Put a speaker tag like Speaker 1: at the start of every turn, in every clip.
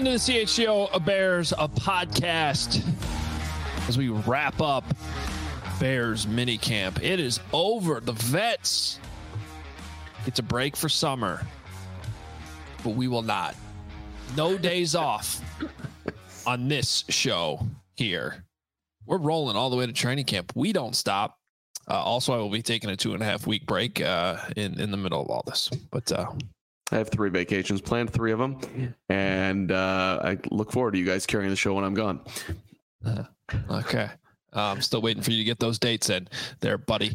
Speaker 1: into the CHGO Bears podcast as we wrap up Bears minicamp. It is over. The vets get to break for summer, but we will not. No days off on this show here. We're rolling all the way to training camp. We don't stop. Also, I will be taking a 2.5 week break in the middle of all this. But
Speaker 2: I have 3 vacations planned, 3 of them, and I look forward to you guys carrying the show when I'm gone.
Speaker 1: Okay. I'm still waiting for you to get those dates in there, buddy.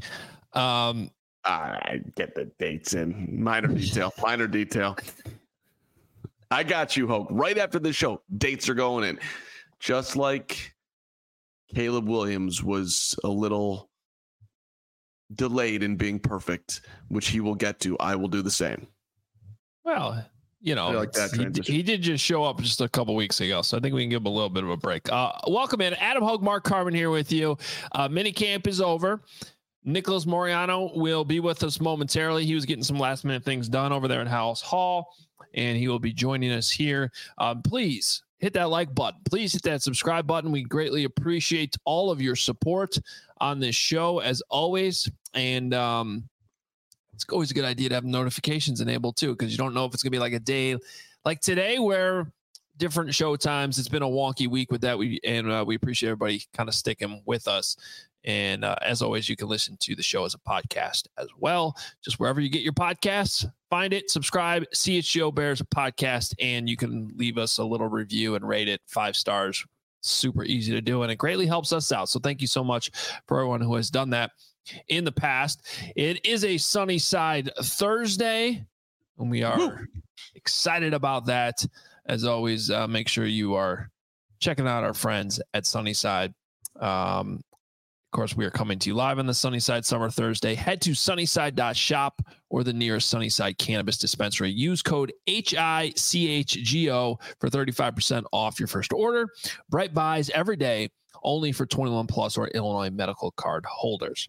Speaker 2: I get the dates in. Minor detail. I got you, Hoke. Right after the show, dates are going in. Just like Caleb Williams was a little delayed in being perfect, which he will get to. I will do the same.
Speaker 1: Well, you know,
Speaker 2: like that
Speaker 1: he did just show up just a couple weeks ago, so I think we can give him a little bit of a break. Welcome in. Adam Hogue, Mark Carman here with you. Minicamp is over. Nicholas Moriano will be with us momentarily. He was getting some last-minute things done over there at House Hall, and he will be joining us here. Please hit that like button. Please hit that subscribe button. We greatly appreciate all of your support on this show, as always. And it's always a good idea to have notifications enabled too, because you don't know if it's going to be like a day like today where different show times. It's been a wonky week with that. We appreciate everybody kind of sticking with us. And as always, you can listen to the show as a podcast as well. Just wherever you get your podcasts, find it, subscribe, CHGO Bears podcast, and you can leave us a little review and rate it 5 stars. Super easy to do, and it greatly helps us out. So thank you so much for everyone who has done that in the past. It is a Sunnyside Thursday, and we are excited about that. As always, make sure you are checking out our friends at Sunnyside. Of course, we are coming to you live on the Sunnyside Summer Thursday. Head to sunnyside.shop or the nearest Sunnyside Cannabis Dispensary. Use code HICHGO for 35% off your first order. Bright buys every day, only for 21 plus or Illinois medical card holders.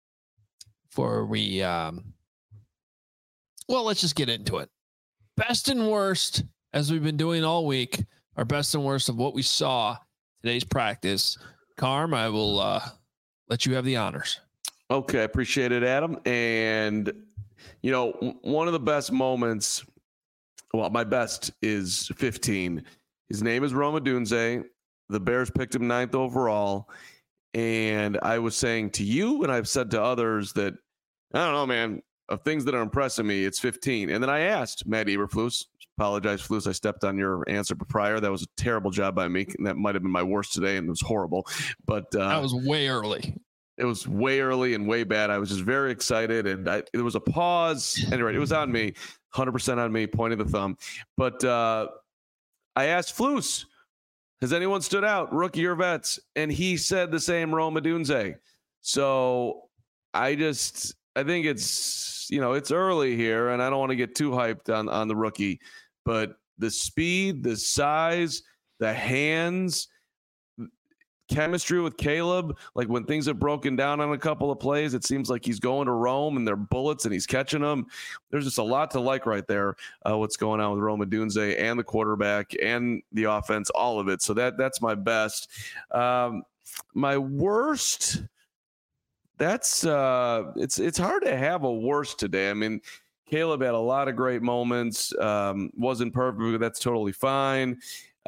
Speaker 1: Let's just get into it. Best and worst, as we've been doing all week, our best and worst of what we saw today's practice. Carm, I will let you have the honors.
Speaker 2: Okay, appreciate it, Adam. And, you know, one of the best moments, well, my best is 15. His name is Rome Odunze. The Bears picked him 9th overall. And I was saying to you, and I've said to others that, I don't know, man, of things that are impressing me, it's 15. And then I asked Matt Eberflus, apologize, Flus, I stepped on your answer prior. That was a terrible job by me. And that might have been my worst today, and it was horrible. But
Speaker 1: that was way early.
Speaker 2: It was way early and way bad. I was just very excited, and there was a pause. Anyway, it was on me, 100% on me, pointing the thumb. But I asked Flus, has anyone stood out, rookie or vets? And he said the same, Rome Odunze. So I think it's, you know, it's early here, and I don't want to get too hyped on the rookie, but the speed, the size, the hands, chemistry with Caleb, like when things have broken down on a couple of plays, it seems like he's going to Rome and they're bullets and he's catching them. There's just a lot to like right there. What's going on with Rome Odunze and the quarterback and the offense, all of it. So that's my best. My worst, that's it's hard to have a worst today. I mean, Caleb had a lot of great moments. Wasn't perfect, but that's totally fine.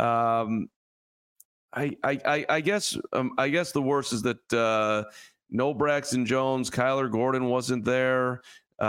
Speaker 2: I guess the worst is that no Braxton Jones, Kyler Gordon wasn't there.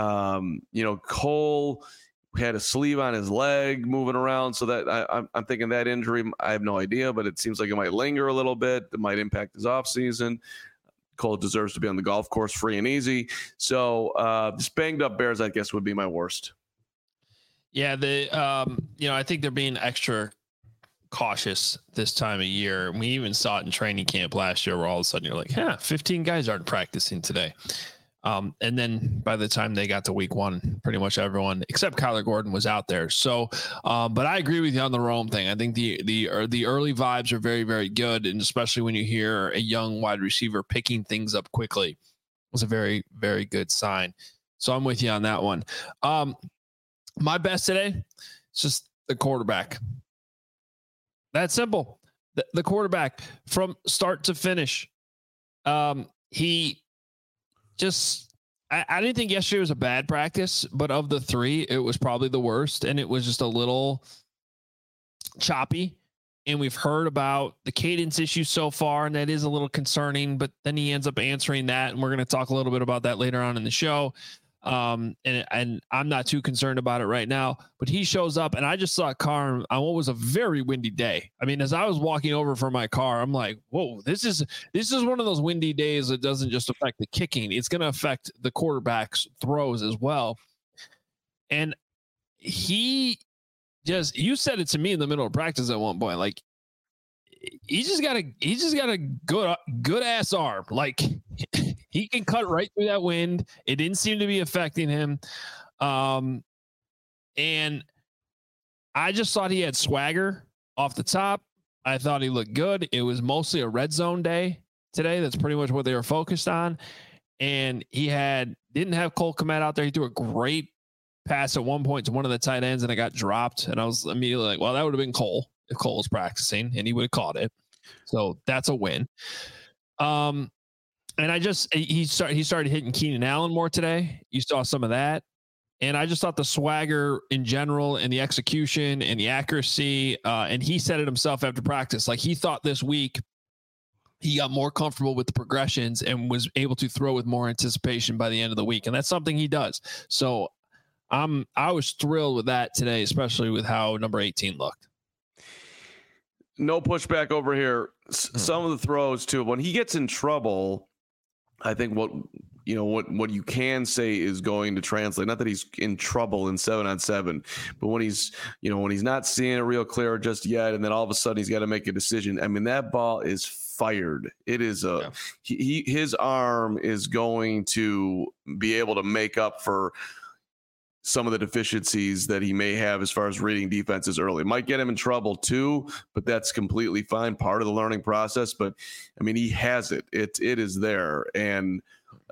Speaker 2: Cole had a sleeve on his leg moving around, so that I'm thinking that injury, I have no idea, but it seems like it might linger a little bit. It might impact his offseason. Cole deserves to be on the golf course free and easy. So just banged up Bears, I guess, would be my worst. Yeah,
Speaker 1: I think they're being extra cautious this time of year. We even saw it in training camp last year where all of a sudden you're like, 15 guys aren't practicing today. And then by the time they got to week one, pretty much everyone except Kyler Gordon was out there. So, but I agree with you on the Rome thing. I think the early vibes are very, very good. And especially when you hear a young wide receiver picking things up quickly, was a very, very good sign. So I'm with you on that one. My best today, it's just the quarterback. That's simple. The quarterback from start to finish. He just, I didn't think yesterday was a bad practice, but of the three, it was probably the worst. And it was just a little choppy. And we've heard about the cadence issue so far, and that is a little concerning, but then he ends up answering that. And we're going to talk a little bit about that later on in the show. And I'm not too concerned about it right now, but he shows up, and I just saw Carm on what was a very windy day. I mean, as I was walking over from my car, I'm like, whoa, this is one of those windy days that doesn't just affect the kicking. It's going to affect the quarterback's throws as well. And you said it to me in the middle of practice at one point, like, he just got a good ass arm. Like, he can cut right through that wind. It didn't seem to be affecting him. And I just thought he had swagger off the top. I thought he looked good. It was mostly a red zone day today. That's pretty much what they were focused on. And he didn't have Cole Kmet out there. He threw a great pass at one point to one of the tight ends, and it got dropped. And I was immediately like, well, that would have been Cole if Cole was practicing, and he would have caught it. So that's a win. And he started hitting Keenan Allen more today. You saw some of that. And I just thought the swagger in general and the execution and the accuracy, and he said it himself after practice, like he thought this week he got more comfortable with the progressions and was able to throw with more anticipation by the end of the week. And that's something he does. So I was thrilled with that today, especially with how number 18 looked.
Speaker 2: No pushback over here. Some of the throws too, when he gets in trouble, I think what you can say is going to translate. Not that he's in trouble in 7-on-7, but when he's not seeing it real clear just yet, and then all of a sudden he's got to make a decision. I mean, that ball is fired. It is his arm is going to be able to make up for some of the deficiencies that he may have as far as reading defenses early. It might get him in trouble too, but that's completely fine. Part of the learning process. But I mean, he has it. It is there. And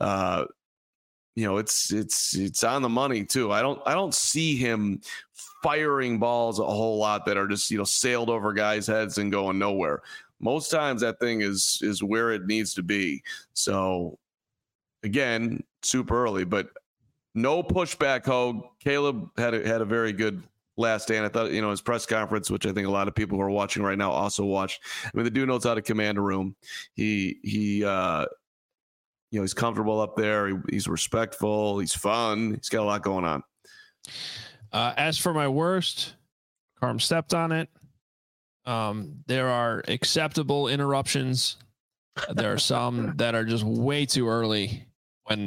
Speaker 2: it's on the money too. I don't see him firing balls a whole lot that are just, sailed over guys' heads and going nowhere. Most times that thing is where it needs to be. So again, super early, but no pushback, Hogue. Caleb had a very good last stand. I thought, his press conference, which I think a lot of people who are watching right now also watched. I mean, the dude knows how to command a room. He's comfortable up there. He's respectful. He's fun. He's got a lot going on.
Speaker 1: As for my worst, Carm stepped on it. There are acceptable interruptions. There are some that are just way too early when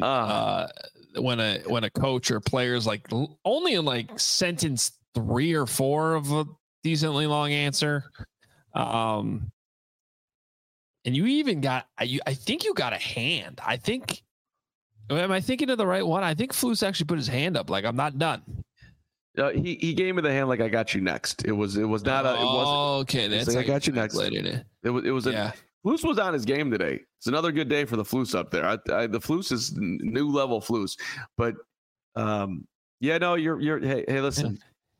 Speaker 1: a coach or player's like only in like sentence 3 or 4 of a decently long answer. And you even got, I think you got a hand. Am I thinking of the right one? I think Flus actually put his hand up. Like, I'm not done.
Speaker 2: He gave me the hand. Like, I got you next. It wasn't.
Speaker 1: Okay. That's
Speaker 2: like, I got you next. It was Flus was on his game today. It's another good day for the Flus up there. The Flus is new level Flus, but you're hey, listen.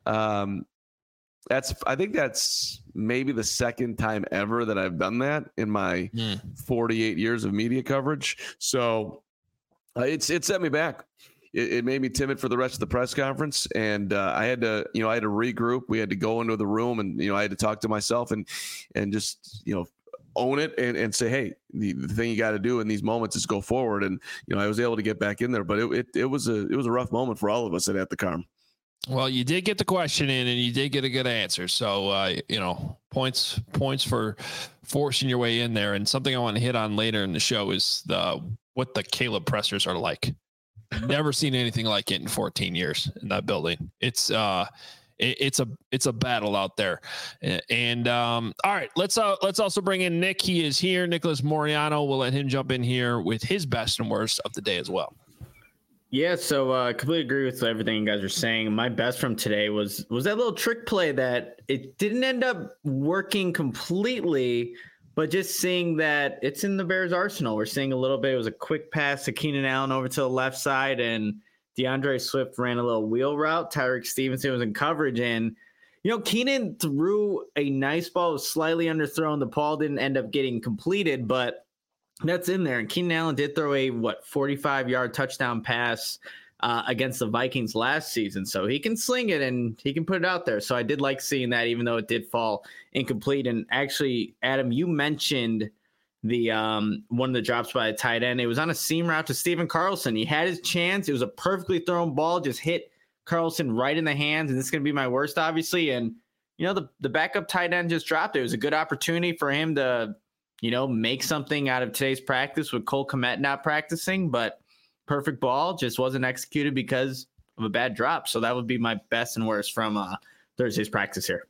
Speaker 2: I think that's maybe the second time ever that I've done that in my 48 years of media coverage. So it set me back. It made me timid for the rest of the press conference, and I had to regroup. We had to go into the room, and I had to talk to myself and just own it and say, hey, the thing you got to do in these moments is go forward. And I was able to get back in there, but it was a rough moment for all of us at the Carm.
Speaker 1: Well, you did get the question in, and you did get a good answer. So, points for forcing your way in there. And something I want to hit on later in the show is what the Caleb pressers are like. Never seen anything like it in 14 years in that building. It's a battle out there. And all right, let's also bring in Nick. He is here. Nicholas Moriano. We'll let him jump in here with his best and worst of the day as well.
Speaker 3: Yeah, so I completely agree with everything you guys are saying. My best from today was that little trick play that it didn't end up working completely, but just seeing that it's in the Bears' arsenal. We're seeing a little bit. It was a quick pass to Keenan Allen over to the left side, and DeAndre Swift ran a little wheel route. Tyreek Stevenson was in coverage, and Keenan threw a nice ball, slightly underthrown. The ball didn't end up getting completed, but that's in there. And Keenan Allen did throw a 45-yard touchdown pass against the Vikings last season. So he can sling it and he can put it out there. So I did like seeing that, even though it did fall incomplete. And actually, Adam, you mentioned the one of the drops by a tight end. It was on a seam route to Stephen Carlson. He had his chance. It was a perfectly thrown ball, just hit Carlson right in the hands. And this is going to be my worst, obviously. And, the backup tight end just dropped it. It was a good opportunity for him to, make something out of today's practice with Cole Kmet not practicing, but perfect ball just wasn't executed because of a bad drop. So that would be my best and worst from Thursday's practice here.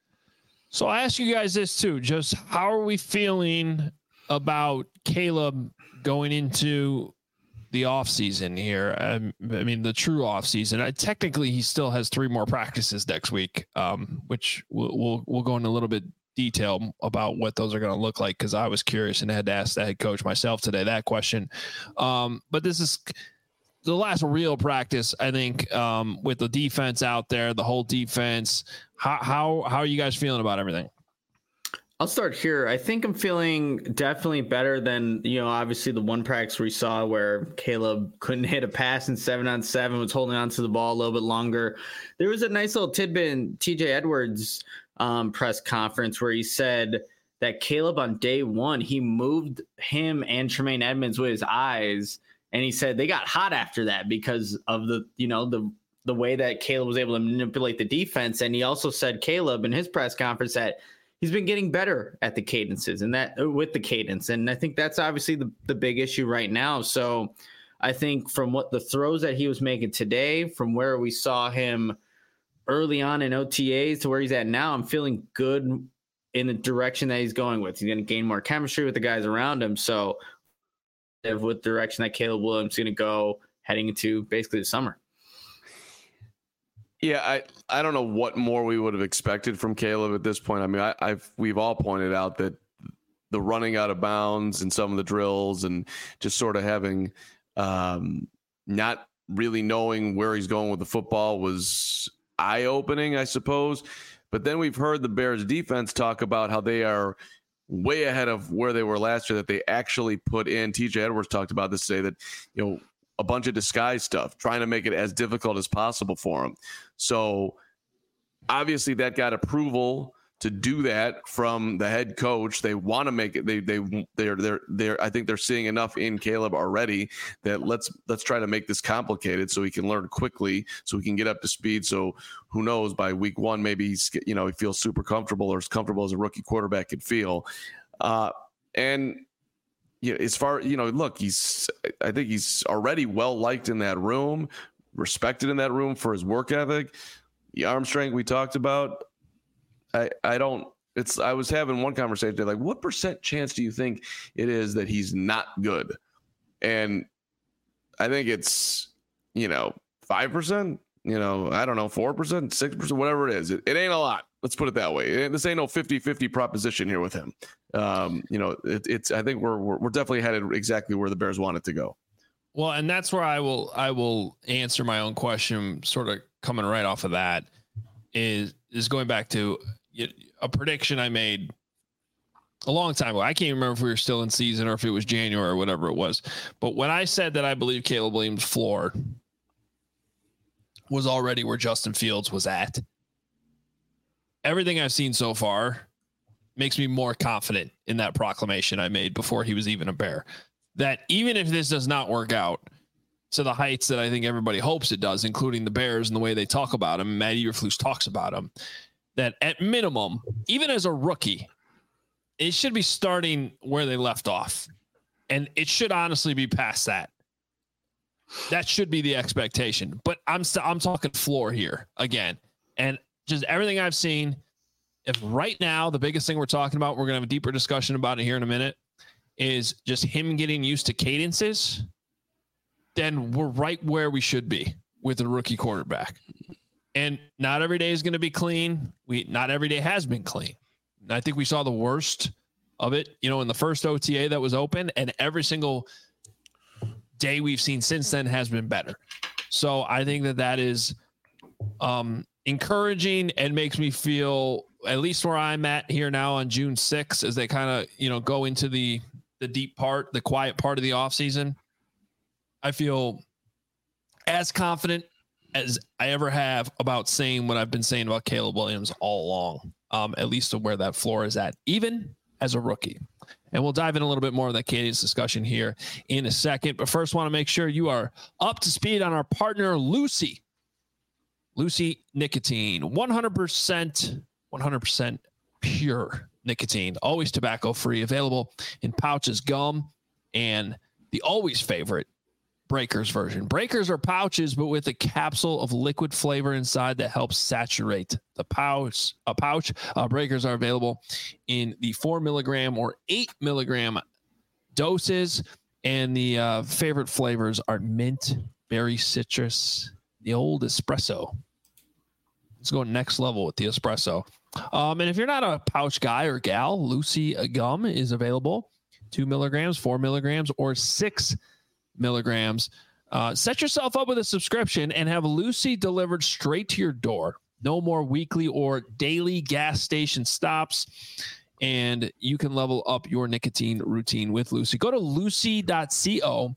Speaker 1: So I ask you guys this too, just how are we feeling about Caleb going into the offseason here? I mean, the true offseason. Technically, he still has 3 more practices next week, which we'll go into a little bit detail about what those are going to look like, because I was curious and had to ask the head coach myself today that question. But this is the last real practice, I think, with the defense out there, the whole defense. How are you guys feeling about everything?
Speaker 3: I'll start here. I think I'm feeling definitely better than, obviously the one practice we saw where Caleb couldn't hit a pass in 7-on-7, was holding on to the ball a little bit longer. There was a nice little tidbit in TJ Edwards' press conference where he said that Caleb on day 1, he moved him and Tremaine Edmonds with his eyes. And he said they got hot after that because of the way that Caleb was able to manipulate the defense. And he also said, Caleb, in his press conference, that he's been getting better at the cadences and that with the cadence. And I think that's obviously the big issue right now. So I think from what the throws that he was making today, from where we saw him early on in OTAs to where he's at now, I'm feeling good in the direction that he's going with. He's going to gain more chemistry with the guys around him. So with the direction that Caleb Williams is going to go heading into basically the summer.
Speaker 2: Yeah, I don't know what more we would have expected from Caleb at this point. I mean, we've all pointed out that the running out of bounds and some of the drills and just sort of having not really knowing where he's going with the football was eye-opening, I suppose. But then we've heard the Bears defense talk about how they are way ahead of where they were last year, that they actually put in. TJ Edwards talked about this today, that, a bunch of disguise stuff, trying to make it as difficult as possible for him. So obviously that got approval to do that from the head coach. They want to make it. They're I think they're seeing enough in Caleb already that let's try to make this complicated so he can learn quickly, so he can get up to speed. So who knows, by week 1, maybe he's, he feels super comfortable, or as comfortable as a rookie quarterback could feel. And as far, look, I think he's already well liked in that room, respected in that room for his work ethic, the arm strength we talked about. I was having one conversation today, like, what % chance do you think it is that he's not good? And I think it's, 5%, I don't know, 4%, 6%, whatever it is. It ain't a lot. Let's put it that way. This ain't no 50-50 proposition here with him. It's I think we're definitely headed exactly where the Bears want it to go.
Speaker 1: Well, and that's where I will answer my own question, sort of coming right off of that, is going back to a prediction I made a long time ago. I can't remember if we were still in season or if it was January or whatever it was. But when I said that I believe Caleb Williams' floor was already where Justin Fields was at, everything I've seen so far makes me more confident in that proclamation I made before he was even a Bear, that even if this does not work out to the heights that I think everybody hopes it does, including the Bears and the way they talk about him, Matt Eberflus talks about him, that at minimum, even as a rookie, it should be starting where they left off. And it should honestly be past that. That should be the expectation. But I'm talking floor here again. And just everything I've seen, if right now the biggest thing we're talking about, we're going to have a deeper discussion about it here in a minute, is just him getting used to cadences, then we're right where we should be with a rookie quarterback. And not every day is going to be clean. Not every day has been clean. And I think we saw the worst of it, in the first OTA that was open, and every single day we've seen since then has been better. So I think that is encouraging and makes me feel, at least where I'm at here now on June 6th, as they kind of, go into the deep part, the quiet part of the offseason. I feel as confident as I ever have about saying what I've been saying about Caleb Williams all along, at least to where that floor is at, even as a rookie. And we'll dive in a little bit more of that cadence discussion here in a second. But first, want to make sure you are up to speed on our partner, Lucy. Lucy Nicotine, 100% pure nicotine, always tobacco-free, available in pouches, gum, and the always favorite Breakers version. Breakers are pouches, but with a capsule of liquid flavor inside that helps saturate the pouch. Breakers are available in the 4 milligram or 8 milligram doses, and the favorite flavors are mint, berry, citrus, the old espresso. Let's go next level with the espresso. And if you're not a pouch guy or gal, Lucy gum is available, 2 milligrams, 4 milligrams, or 6 milligrams. Set yourself up with a subscription and have Lucy delivered straight to your door. No more weekly or daily gas station stops, and you can level up your nicotine routine with Lucy. Go to lucy.co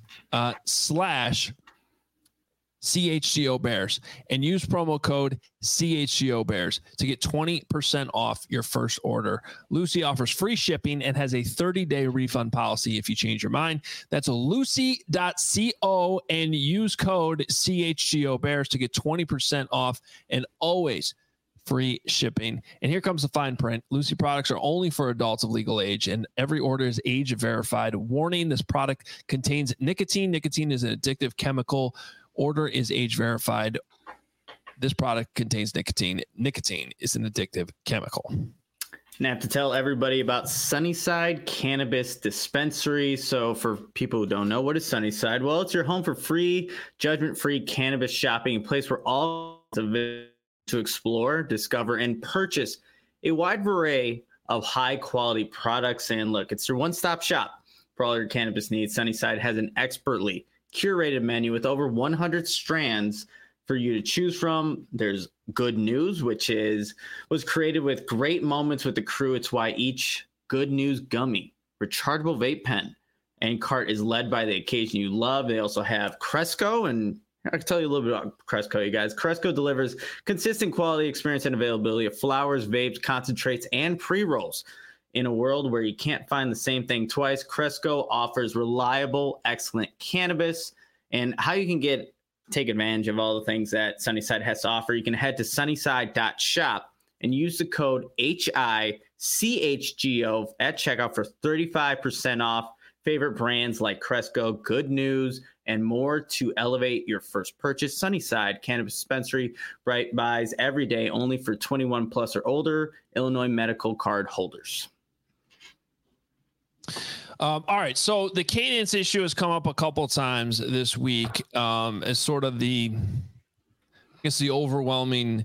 Speaker 1: /CHGO Bears and use promo code CHGO Bears to get 20% off your first order. Lucy offers free shipping and has a 30-day refund policy if you change your mind. That's lucy.co and use code CHGO Bears to get 20% off and always free shipping. And here comes the fine print. Lucy products are only for adults of legal age, and every order is age verified. Warning, this product contains nicotine. Nicotine is an addictive chemical. Order is age verified. This product contains nicotine. Nicotine is an addictive chemical.
Speaker 3: And I have to tell everybody about Sunnyside Cannabis Dispensary. So for people who don't know, what is Sunnyside? Well, it's your home for free, judgment-free cannabis shopping, a place where all to explore, discover, and purchase a wide array of high-quality products. And look, it's your one-stop shop for all your cannabis needs. Sunnyside has an expertly curated menu with over 100 strands for you to choose from. There's Good News, which was created with great moments with the crew. It's why each Good News gummy, rechargeable vape pen, and cart is led by the occasion you love. They also have Cresco, and I can tell you a little bit about Cresco, you guys. Cresco delivers consistent quality, experience, and availability of flowers, vapes, concentrates, and pre-rolls. In a world where you can't find the same thing twice, Cresco offers reliable, excellent cannabis. And how you can take advantage of all the things that Sunnyside has to offer, you can head to sunnyside.shop and use the code HICHGO at checkout for 35% off favorite brands like Cresco, Good News, and more to elevate your first purchase. Sunnyside Cannabis Dispensary, bright buys every day, only for 21 plus or older Illinois medical card holders.
Speaker 1: All right. So the cadence issue has come up a couple of times this week as sort of the overwhelming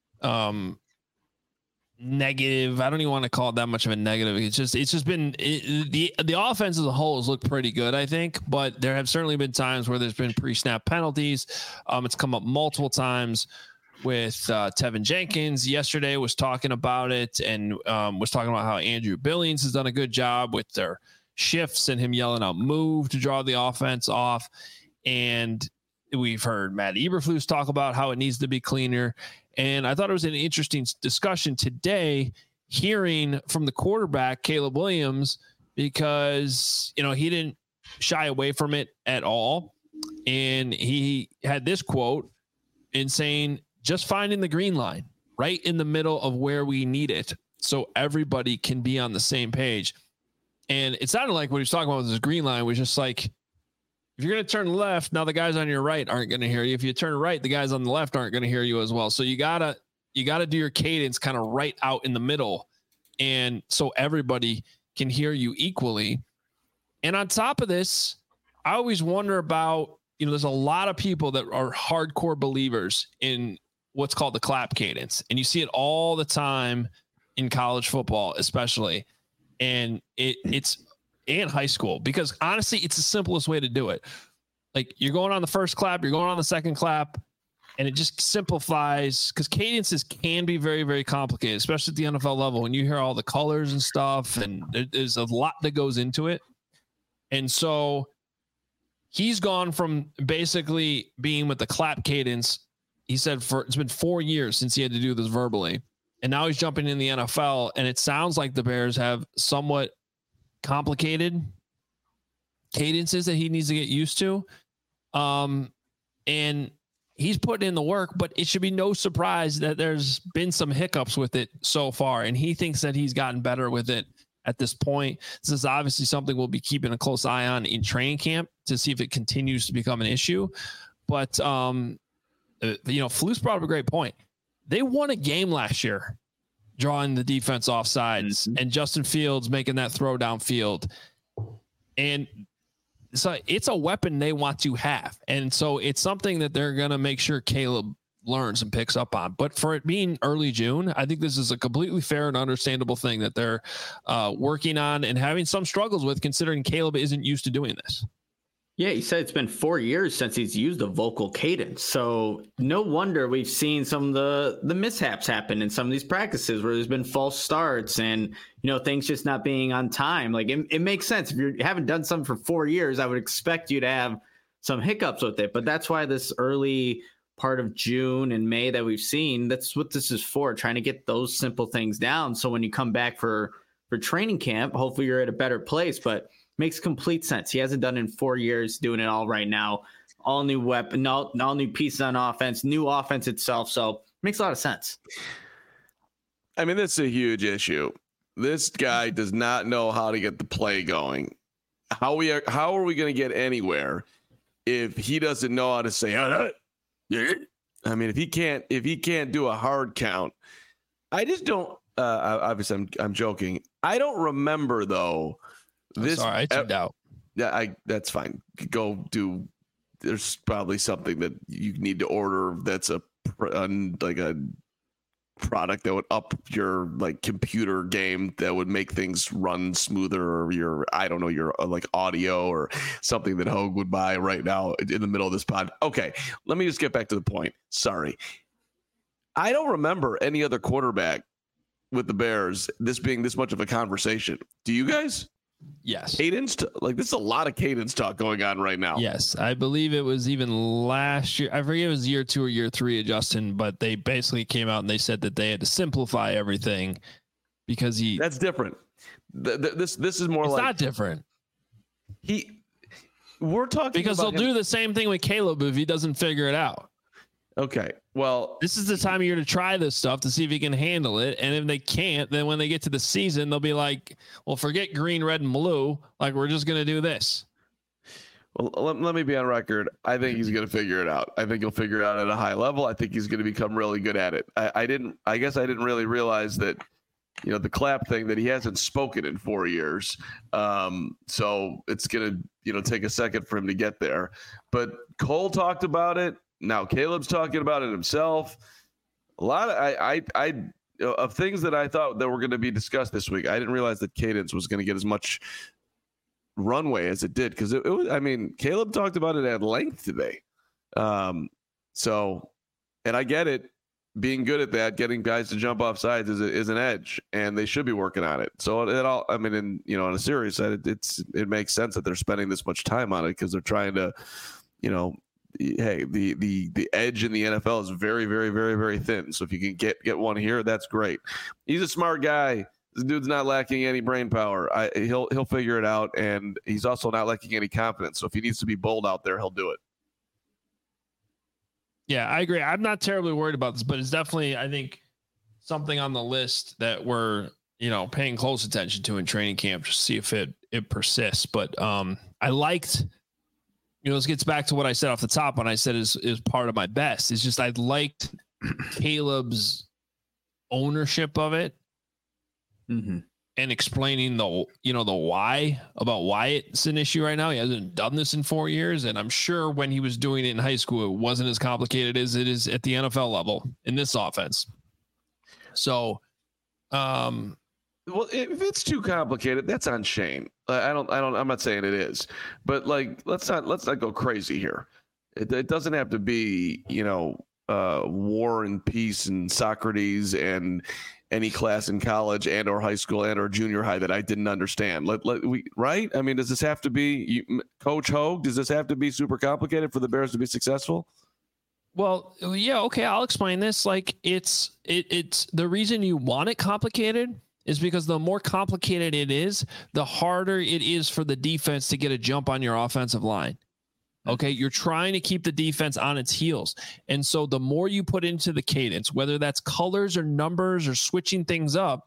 Speaker 1: negative. I don't even want to call it that much of a negative. It's just been the offense as a whole has looked pretty good, I think, but there have certainly been times where there's been pre-snap penalties. It's come up multiple times with Tevin Jenkins. Yesterday was talking about it and was talking about how Andrew Billings has done a good job with their shifts and him yelling out move to draw the offense off. And we've heard Matt Eberflus talk about how it needs to be cleaner. And I thought it was an interesting discussion today, hearing from the quarterback, Caleb Williams, because, he didn't shy away from it at all. And he had this quote in saying, just finding the green line right in the middle of where we need it so everybody can be on the same page. And it sounded like what he was talking about with this green line was just like, if you're going to turn left, now the guys on your right aren't going to hear you. If you turn right, the guys on the left aren't going to hear you as well. So you gotta do your cadence kind of right out in the middle. And so everybody can hear you equally. And on top of this, I always wonder about, there's a lot of people that are hardcore believers in what's called the clap cadence. And you see it all the time in college football, especially. And it's in high school, because honestly, it's the simplest way to do it. Like, you're going on the first clap, you're going on the second clap, And it just simplifies, because cadences can be very, very complicated, especially at the NFL level. When you hear all the colors and stuff, and there's a lot that goes into it. And so he's gone from basically being with the clap cadence. He said it's been 4 years since he had to do this verbally. And now he's jumping in the NFL, and it sounds like the Bears have somewhat complicated cadences that he needs to get used to. And he's putting in the work, but it should be no surprise that there's been some hiccups with it so far. And he thinks that he's gotten better with it at this point. This is obviously something we'll be keeping a close eye on in training camp to see if it continues to become an issue. But, Flus brought up a great point. They won a game last year, drawing the defense off sides and Justin Fields making that throw downfield. And so it's a weapon they want to have. And so it's something that they're going to make sure Caleb learns and picks up on. But for it being early June, I think this is a completely fair and understandable thing that they're working on and having some struggles with, considering Caleb isn't used to doing this.
Speaker 3: Yeah, he said it's been 4 years since he's used a vocal cadence. So no wonder we've seen some of the mishaps happen in some of these practices where there's been false starts and, things just not being on time. Like it makes sense. If you haven't done something for 4 years, I would expect you to have some hiccups with it. But that's why this early part of June and May that we've seen, that's what this is for, trying to get those simple things down. So when you come back for training camp, hopefully you're at a better place. But makes complete sense. He hasn't done it in 4 years, doing it all right now. All new weapon, all new pieces on offense, new offense itself. So makes a lot of sense.
Speaker 2: I mean, that's a huge issue. This guy does not know how to get the play going. How are we going to get anywhere if he doesn't know how to say, I mean, if he can't do a hard count, I just don't, obviously I'm joking. I don't remember though.
Speaker 1: I tuned out.
Speaker 2: Yeah, that's fine. Go do. There's probably something that you need to order that's like a product that would up your computer game that would make things run smoother, or your audio or something that Hogue would buy right now in the middle of this pod. Okay, let me just get back to the point. Sorry, I don't remember any other quarterback with the Bears this being this much of a conversation. Do you guys?
Speaker 1: Yes.
Speaker 2: Cadence, this is a lot of cadence talk going on right now.
Speaker 1: Yes. I believe it was even last year. I forget if it was year 2 or year 3 of Justin, but they basically came out and they said that they had to simplify everything because
Speaker 2: that's different. This is more
Speaker 1: it's
Speaker 2: like
Speaker 1: not different.
Speaker 2: We're talking
Speaker 1: because
Speaker 2: about
Speaker 1: they'll do the same thing with Caleb if he doesn't figure it out.
Speaker 2: Okay. Well,
Speaker 1: this is the time of year to try this stuff to see if he can handle it. And if they can't, then when they get to the season, they'll be like, well, forget green, red, and blue. Like, we're just going to do this.
Speaker 2: Well, let me be on record. I think he's going to figure it out. I think he'll figure it out at a high level. I think he's going to become really good at it. I guess I didn't really realize that, the clap thing, that he hasn't spoken in 4 years. So it's going to, take a second for him to get there. But Cole talked about it. Now Caleb's talking about it himself. A lot of of things that I thought that were going to be discussed this week. I didn't realize that cadence was going to get as much runway as it did, because it was. I mean, Caleb talked about it at length today. So, and I get it. Being good at that, getting guys to jump off sides is an edge, and they should be working on it. So it all. I mean, on a serious side, it makes sense that they're spending this much time on it, because they're trying to, hey, the edge in the NFL is very, very, very, very thin. So if you can get one here, that's great. He's a smart guy. This dude's not lacking any brain power. He'll figure it out, and he's also not lacking any confidence. So if he needs to be bold out there, he'll do it.
Speaker 1: Yeah, I agree. I'm not terribly worried about this, but it's definitely, I think, something on the list that we're, paying close attention to in training camp, just to see if it persists. But I liked. This gets back to what I said off the top when I said is part of my best. It's just I liked Caleb's ownership of it, and explaining the why it's an issue right now. He hasn't done this in 4 years, and I'm sure when he was doing it in high school, it wasn't as complicated as it is at the NFL level in this offense. So,
Speaker 2: well, if it's too complicated, that's on Shane. I'm not saying it is, but let's not go crazy here. It doesn't have to be, War and Peace and Socrates and any class in college and or high school and or junior high that I didn't understand. Right? I mean, does this have to be Coach Hogue? Does this have to be super complicated for the Bears to be successful?
Speaker 1: Well, yeah, okay, I'll explain this. Like it's the reason you want it complicated is because the more complicated it is, the harder it is for the defense to get a jump on your offensive line. Okay, you're trying to keep the defense on its heels. And so the more you put into the cadence, whether that's colors or numbers or switching things up,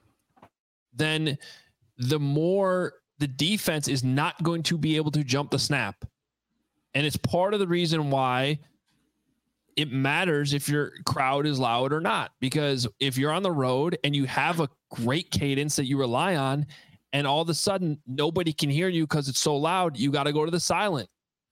Speaker 1: then the more the defense is not going to be able to jump the snap. And it's part of the reason why it matters if your crowd is loud or not, because if you're on the road and you have a great cadence that you rely on, and all of a sudden nobody can hear you because it's so loud, you got to go to the silent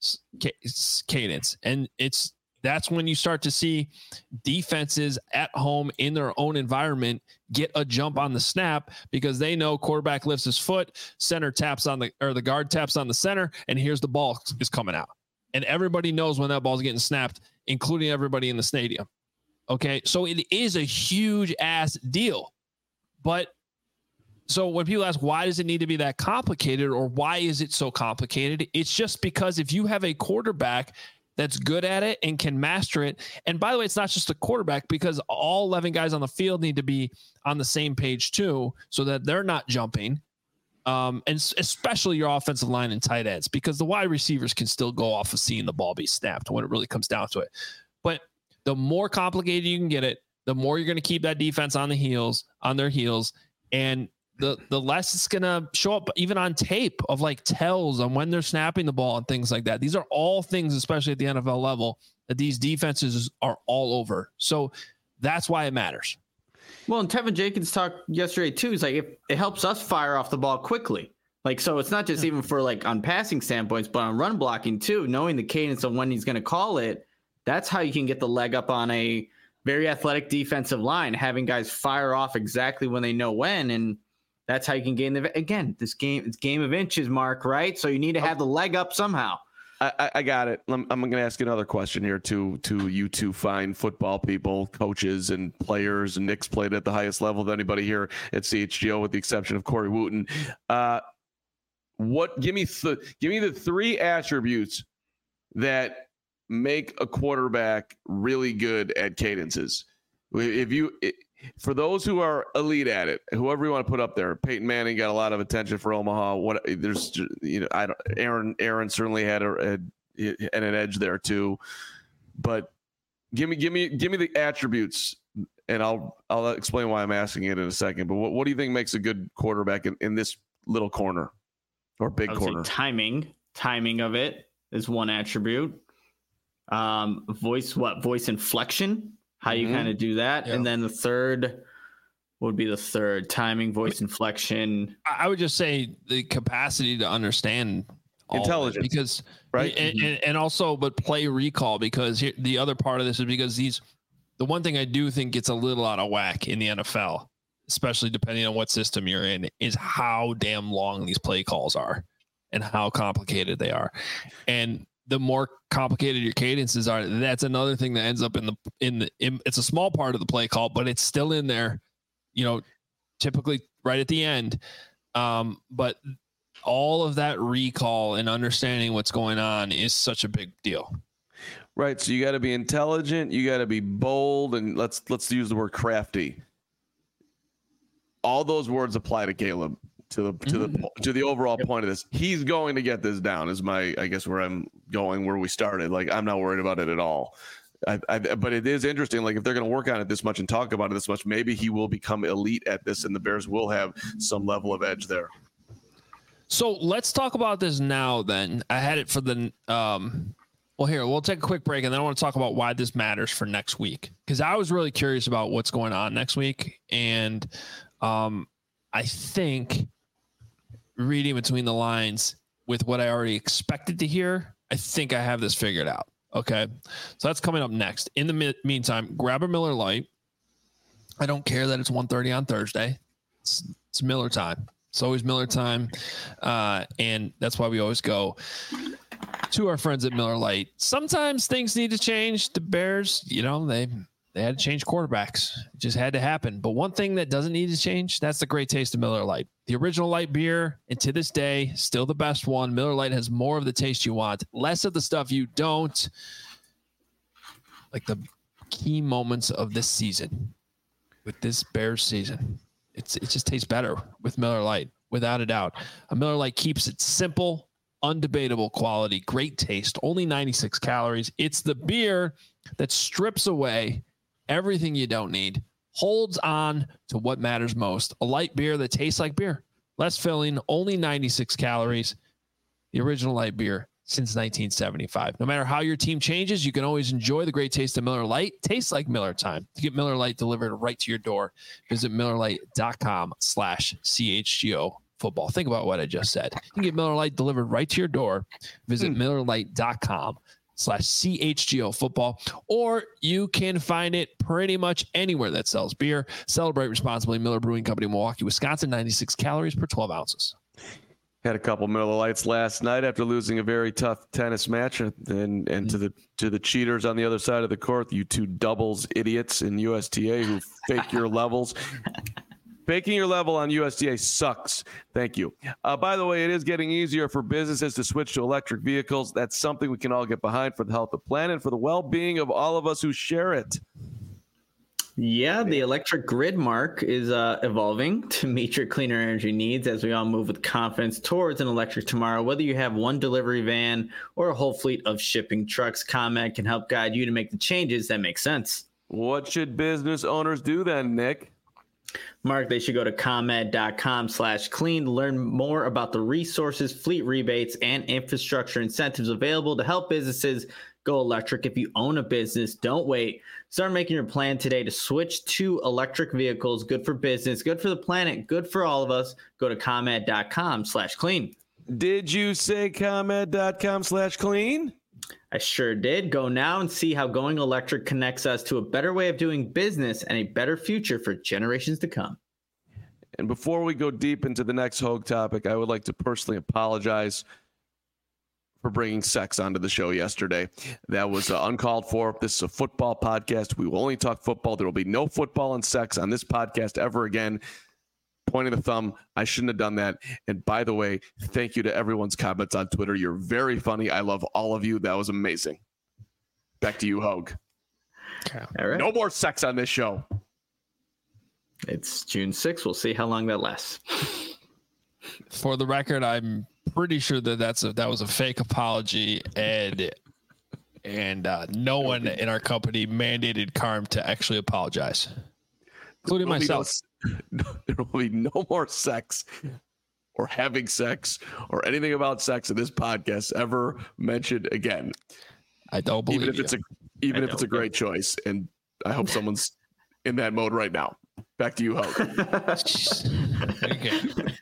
Speaker 1: cadence. And that's when you start to see defenses at home in their own environment get a jump on the snap because they know quarterback lifts his foot, center taps on the guard taps on the center, and here's the ball is coming out. And everybody knows when that ball is getting snapped, including everybody in the stadium. Okay. So it is a huge ass deal. But so when people ask, why does it need to be that complicated or why is it so complicated? It's just because if you have a quarterback that's good at it and can master it. And by the way, it's not just a quarterback because all 11 guys on the field need to be on the same page too, so that they're not jumping. And especially your offensive line and tight ends, because the wide receivers can still go off of seeing the ball be snapped when it really comes down to it. But the more complicated you can get it, the more you're going to keep that defense on their heels. And the less it's going to show up even on tape of like tells on when they're snapping the ball and things like that. These are all things, especially at the NFL level, that these defenses are all over. So that's why it matters.
Speaker 3: Well, and Tevin Jenkins talked yesterday too. He's like, it helps us fire off the ball quickly. Like, so it's not just even for like on passing standpoints, but on run blocking too, knowing the cadence of when he's going to call it. That's how you can get the leg up on a very athletic defensive line, having guys fire off exactly when they know when. And that's how you can gain it's game of inches, Mark, right? So you need to have the leg up somehow.
Speaker 2: I got it. I'm going to ask another question here to you two fine football people, coaches and players. And Nick's played at the highest level of anybody here at CHGO, with the exception of Corey Wooten. Give me the three attributes that make a quarterback really good at cadences. For those who are elite at it, whoever you want to put up there, Peyton Manning got a lot of attention for Omaha. Aaron certainly had an edge there too. But give me the attributes, and I'll explain why I'm asking it in a second. But what do you think makes a good quarterback in this little corner or big corner?
Speaker 3: Timing of it is one attribute. Voice inflection. How you kind of do that. Yeah. And then the third would be timing, voice inflection.
Speaker 1: I would just say the capacity to understand
Speaker 2: intelligence,
Speaker 1: because right. And also, but play recall, because the other part of this is because the one thing I do think gets a little out of whack in the NFL, especially depending on what system you're in, is how damn long these play calls are and how complicated they are. And the more complicated your cadences are, that's another thing that ends up in it's a small part of the play call, but it's still in there, typically right at the end. But all of that recall and understanding what's going on is such a big deal.
Speaker 2: Right. So you got to be intelligent, you got to be bold, and let's use the word crafty. All those words apply to Caleb. To the overall point of this, he's going to get this down. Is I guess where I'm going, where we started. Like, I'm not worried about it at all. But it is interesting. Like, if they're going to work on it this much and talk about it this much, maybe he will become elite at this, and the Bears will have some level of edge there.
Speaker 1: So let's talk about this now. Then I had it for the. Well, here we'll take a quick break, and then I want to talk about why this matters for next week, because I was really curious about what's going on next week, and I think, reading between the lines with what I already expected to hear, I think I have this figured out. Okay. So that's coming up next. In the meantime, grab a Miller Lite. I don't care that it's 1:30 on Thursday. It's Miller time. It's always Miller time. And that's why we always go to our friends at Miller Lite. Sometimes things need to change. The Bears, they had to change quarterbacks. It just had to happen. But one thing that doesn't need to change, that's the great taste of Miller Lite. The original light beer, and to this day, still the best one. Miller Lite has more of the taste you want, less of the stuff you don't. Like the key moments of this season, with this Bears season, it just tastes better with Miller Lite, without a doubt. A Miller Lite keeps it simple, undebatable quality, great taste, only 96 calories. It's the beer that strips away everything you don't need, holds on to what matters most. A light beer that tastes like beer, less filling, only 96 calories. The original light beer since 1975. No matter how your team changes, you can always enjoy the great taste of Miller Lite. Tastes like Miller time. To get Miller Lite delivered right to your door, visit MillerLite.com/CHGO football. Think about what I just said. You can get Miller Lite delivered right to your door. Visit MillerLite.com/CHGO football, or you can find it pretty much anywhere that sells beer. Celebrate responsibly. Miller Brewing Company, Milwaukee, Wisconsin. 96 calories per 12 ounces.
Speaker 2: Had a couple Miller Lights last night after losing a very tough tennis match, and to the cheaters on the other side of the court, you two doubles idiots in USTA who fake your levels. Faking your level on USTA sucks. Thank you. By the way, it is getting easier for businesses to switch to electric vehicles. That's something we can all get behind for the health of the planet and for the well-being of all of us who share it.
Speaker 3: Yeah, the electric grid, Mark, is evolving to meet your cleaner energy needs as we all move with confidence towards an electric tomorrow. Whether you have one delivery van or a whole fleet of shipping trucks, ComEd can help guide you to make the changes that make sense.
Speaker 2: What should business owners do then, Nick?
Speaker 3: Mark, they should go to ComEd.com/clean to learn more about the resources, fleet rebates, and infrastructure incentives available to help businesses go electric. If you own a business, don't wait. Start making your plan today to switch to electric vehicles. Good for business, good for the planet, good for all of us. Go to ComEd.com/clean.
Speaker 2: Did you say ComEd.com/clean?
Speaker 3: I sure did. Go now and see how going electric connects us to a better way of doing business and a better future for generations to come.
Speaker 2: And before we go deep into the next Hogue topic, I would like to personally apologize for bringing sex onto the show yesterday. That was uncalled for. This is a football podcast. We will only talk football. There will be no football and sex on this podcast ever again. Pointing the thumb, I shouldn't have done that. And by the way, thank you to everyone's comments on Twitter. You're very funny. I love all of you. That was amazing. Back to you, Hogue.
Speaker 3: Okay. All right.
Speaker 2: No more sex on this show.
Speaker 3: It's June 6th. We'll see how long that lasts.
Speaker 1: For the record, I'm pretty sure that was a fake apology, and no one in our company mandated Carm to actually apologize, including myself.
Speaker 2: There will be no more sex or having sex or anything about sex in this podcast ever mentioned again.
Speaker 1: I don't believe
Speaker 2: even if it's a great choice, and I hope someone's in that mode right now. Back to you, Hogue.
Speaker 1: Okay.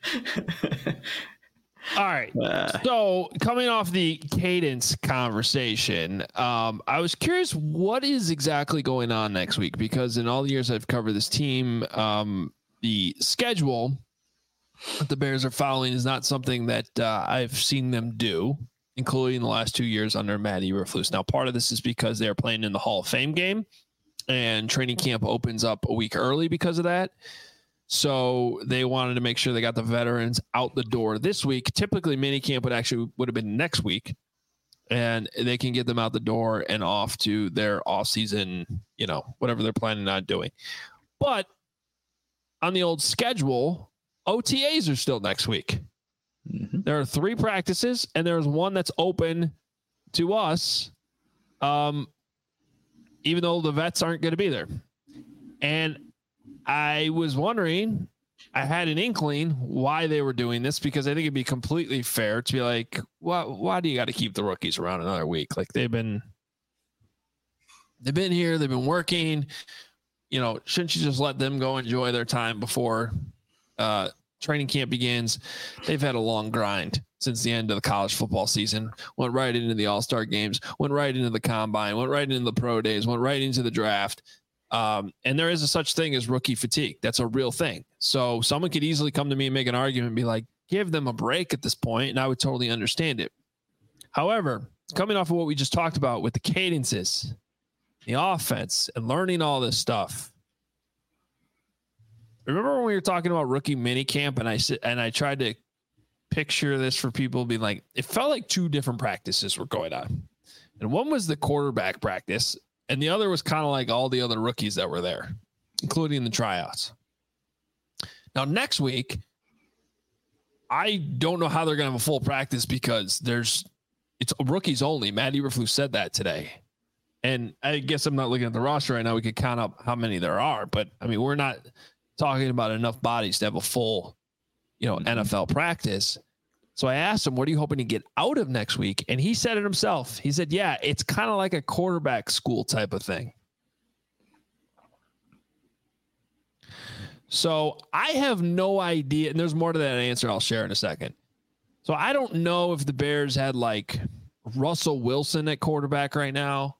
Speaker 1: All right. So coming off the cadence conversation, I was curious what is exactly going on next week, because in all the years I've covered this team, the schedule that the Bears are following is not something that I've seen them do, including the last 2 years under Matt Eberflus. Now, part of this is because they're playing in the Hall of Fame game, and training camp opens up a week early because of that. So they wanted to make sure they got the veterans out the door this week. Typically, minicamp would have been next week, and they can get them out the door and off to their off-season, whatever they're planning on doing. But on the old schedule, OTAs are still next week. Mm-hmm. There are 3 practices, and there's one that's open to us, even though the vets aren't going to be there. And I was wondering, I had an inkling why they were doing this, because I think it'd be completely fair to be like, why do you got to keep the rookies around another week? Like they've been here, they've been working, shouldn't you just let them go enjoy their time before training camp begins? They've had a long grind since the end of the college football season, went right into the all-star games, went right into the combine, went right into the pro days, went right into the draft. And there is a such thing as rookie fatigue. That's a real thing. So someone could easily come to me and make an argument and be like, give them a break at this point, and I would totally understand it. However, coming off of what we just talked about with the cadences, the offense, and learning all this stuff. Remember when we were talking about rookie minicamp, and I tried to picture this for people, being like, it felt like two different practices were going on, and one was the quarterback practice, and the other was kind of like all the other rookies that were there, including the tryouts. Now next week, I don't know how they're going to have a full practice because it's rookies only. Matt Eberflus said that today. And I guess I'm not looking at the roster right now. We could count up how many there are, but I mean, we're not talking about enough bodies to have a full, NFL practice. So I asked him, what are you hoping to get out of next week? And he said it himself. He said, yeah, it's kind of like a quarterback school type of thing. So I have no idea. And there's more to that answer I'll share in a second. So I don't know if the Bears had like Russell Wilson at quarterback right now.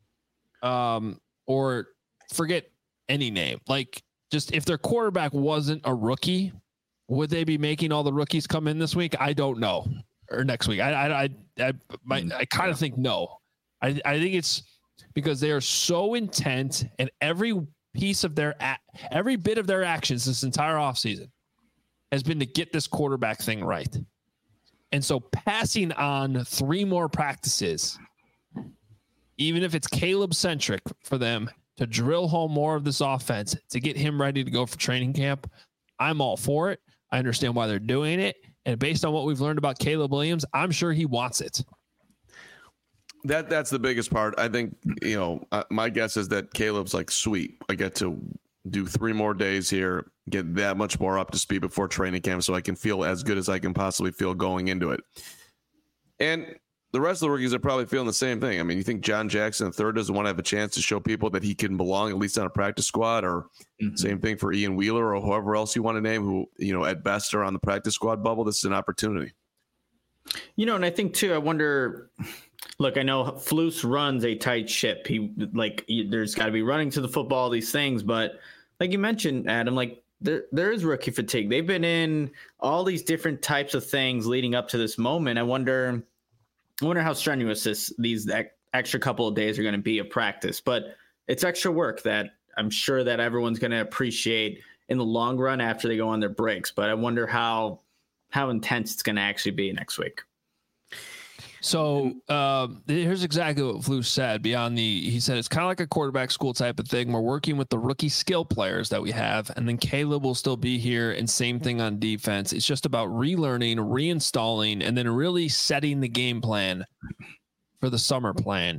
Speaker 1: Or forget any name. Like, just if their quarterback wasn't a rookie, would they be making all the rookies come in this week? I don't know. Or next week. I kind of think no. I think it's because they are so intent, and every bit of their actions this entire offseason has been to get this quarterback thing right. And so passing on 3 more practices, even if it's Caleb centric for them to drill home more of this offense to get him ready to go for training camp, I'm all for it. I understand why they're doing it. And based on what we've learned about Caleb Williams, I'm sure he wants it.
Speaker 2: That's the biggest part. I think, my guess is that Caleb's like, sweet, I get to do 3 more days here, get that much more up to speed before training camp so I can feel as good as I can possibly feel going into it. And the rest of the rookies are probably feeling the same thing. I mean, you think John Jackson III doesn't want to have a chance to show people that he can belong at least on a practice squad, or same thing for Ian Wheeler or whoever else you want to name who, at best are on the practice squad bubble. This is an opportunity.
Speaker 3: And I think too, I wonder, look, I know Flus runs a tight ship. There's got to be running to the football, these things, but like you mentioned, Adam, like there is rookie fatigue. They've been in all these different types of things leading up to this moment. I wonder how strenuous these extra couple of days are going to be of practice, but it's extra work that I'm sure that everyone's going to appreciate in the long run after they go on their breaks. But I wonder how intense it's going to actually be next week.
Speaker 1: So here's exactly what Flus said. He said it's kind of like a quarterback school type of thing. We're working with the rookie skill players that we have, and then Caleb will still be here, and same thing on defense. It's just about relearning, reinstalling, and then really setting the game plan for the summer plan.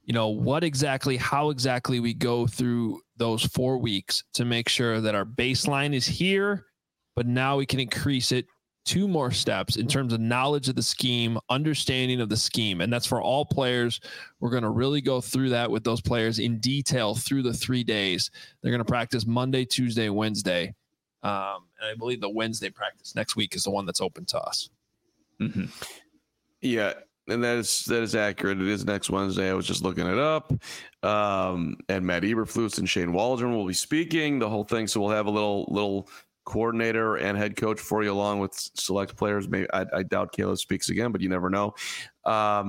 Speaker 1: How exactly we go through those 4 weeks to make sure that our baseline is here, but now we can increase it 2 more steps in terms of knowledge of the scheme, understanding of the scheme. And that's for all players. We're going to really go through that with those players in detail through the 3 days. They're going to practice Monday, Tuesday, Wednesday. And I believe the Wednesday practice next week is the one that's open to us.
Speaker 3: Mm-hmm.
Speaker 2: Yeah. And that is accurate. It is next Wednesday. I was just looking it up. And Matt Eberflus and Shane Waldron will be speaking, the whole thing. So we'll have a little coordinator and head coach for you, along with select players. Maybe I doubt Caleb speaks again, but you never know. I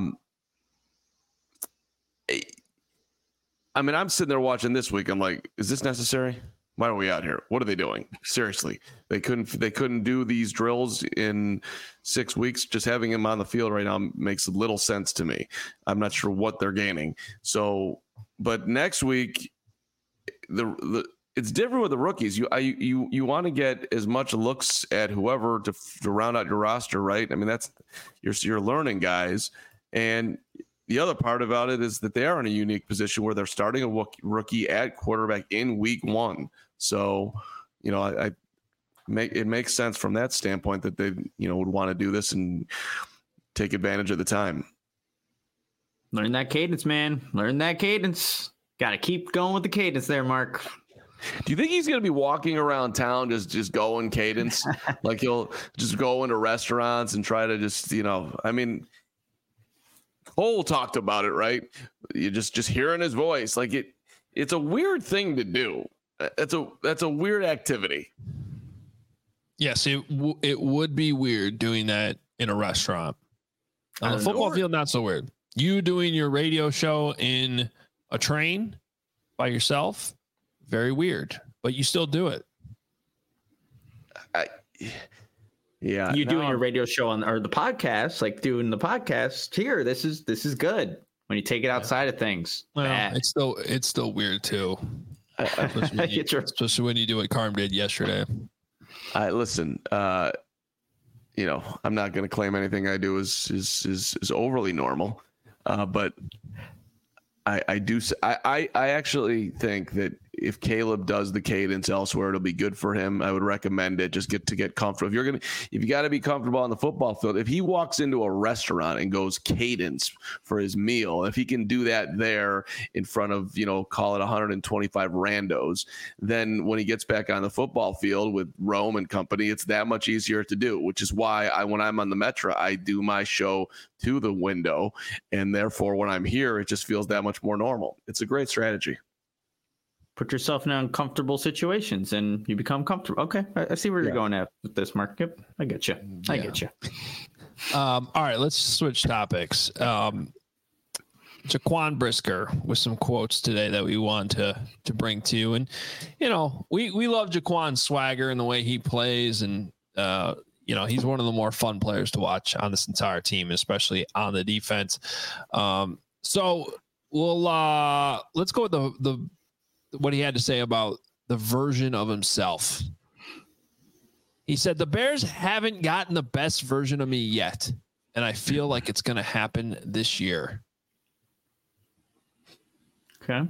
Speaker 2: mean, I'm sitting there watching this week. I'm like, is this necessary? Why are we out here? What are they doing? Seriously, they couldn't do these drills in 6 weeks. Just having him on the field right now makes little sense to me. I'm not sure what they're gaining. So, but next week, it's different with the rookies. You want to get as much looks at whoever to round out your roster, right? I mean, that's you're learning guys. And the other part about it is that they are in a unique position where they're starting a rookie at quarterback in week 1. So, it makes sense from that standpoint that they, would want to do this and take advantage of the time.
Speaker 3: Learn that cadence, man. Learn that cadence. Got to keep going with the cadence there, Mark.
Speaker 2: Do you think he's going to be walking around town just going cadence? Like he'll just go into restaurants and try to just, I mean, Cole talked about it, right? You just hearing his voice. Like it's a weird thing to do. That's a weird activity.
Speaker 1: Yes, it would be weird doing that in a restaurant. On the football field, not so weird. You doing your radio show in a train by yourself, very weird, but you still do it.
Speaker 2: Yeah.
Speaker 3: You doing your radio show or the podcast, like doing the podcast here. This is good. When you take it outside of things.
Speaker 1: Well, it's still weird too. Especially when you do what Carm did yesterday.
Speaker 2: Listen, I'm not going to claim anything I do is overly normal, but I actually think that if Caleb does the cadence elsewhere, it'll be good for him. I would recommend it. Just get comfortable. If you got to be comfortable on the football field, if he walks into a restaurant and goes cadence for his meal, if he can do that there in front of, call it 125 randos, then when he gets back on the football field with Rome and company, it's that much easier to do, which is why when I'm on the Metro, I do my show to the window. And therefore, when I'm here, it just feels that much more normal. It's a great strategy.
Speaker 3: Put yourself in uncomfortable situations and you become comfortable. Okay. I see where you're going at with this, Mark. Yep. I get you. I get you.
Speaker 1: All right, let's switch topics. Jaquan Brisker with some quotes today that we want to bring to you. And, we love Jaquan's swagger and the way he plays. And, he's one of the more fun players to watch on this entire team, especially on the defense. So let's go with what he had to say about the version of himself. He said, "The Bears haven't gotten the best version of me yet, and I feel like it's going to happen this year."
Speaker 3: Okay.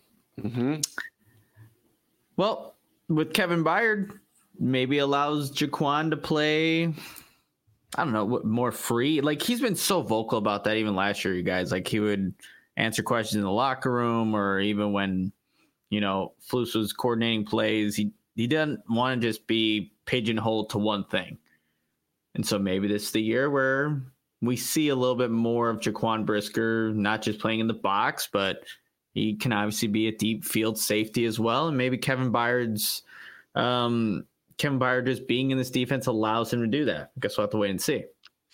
Speaker 3: Well, with Kevin Byard, maybe allows Jaquan to play, I don't know, more free. Like, he's been so vocal about that even last year, you guys. Like, he would answer questions in the locker room, or even when Flus was coordinating plays, he doesn't want to just be pigeonholed to one thing. And so maybe this is the year where we see a little bit more of Jaquan Brisker, not just playing in the box, but he can obviously be a deep field safety as well. And maybe Kevin Byard just being in this defense allows him to do that. I guess we'll have to wait and see.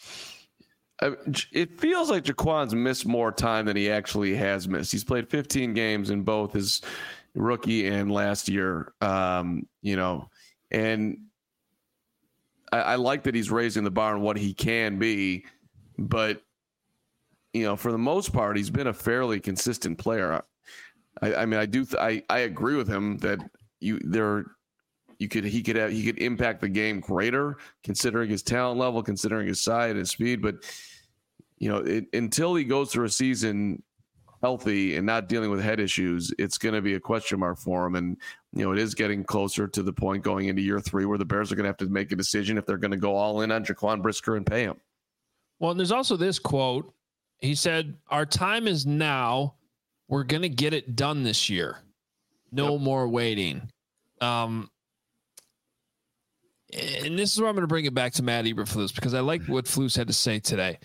Speaker 2: It feels like Jaquan's missed more time than he actually has missed. He's played 15 games in both his rookie and last year, and I like that he's raising the bar on what he can be, but for the most part, he's been a fairly consistent player. I agree with him that he could impact the game greater, considering his talent level, considering his size and his speed, but until he goes through a season healthy and not dealing with head issues, it's going to be a question mark for him. And, it is getting closer to the point going into year 3 where the Bears are going to have to make a decision if they're going to go all in on Jaquan Brisker and pay him.
Speaker 1: Well, and there's also this quote. He said, "Our time is now. We're going to get it done this year. No more waiting." And this is where I'm going to bring it back to Matt Eberflus, because I like what Flus had to say today.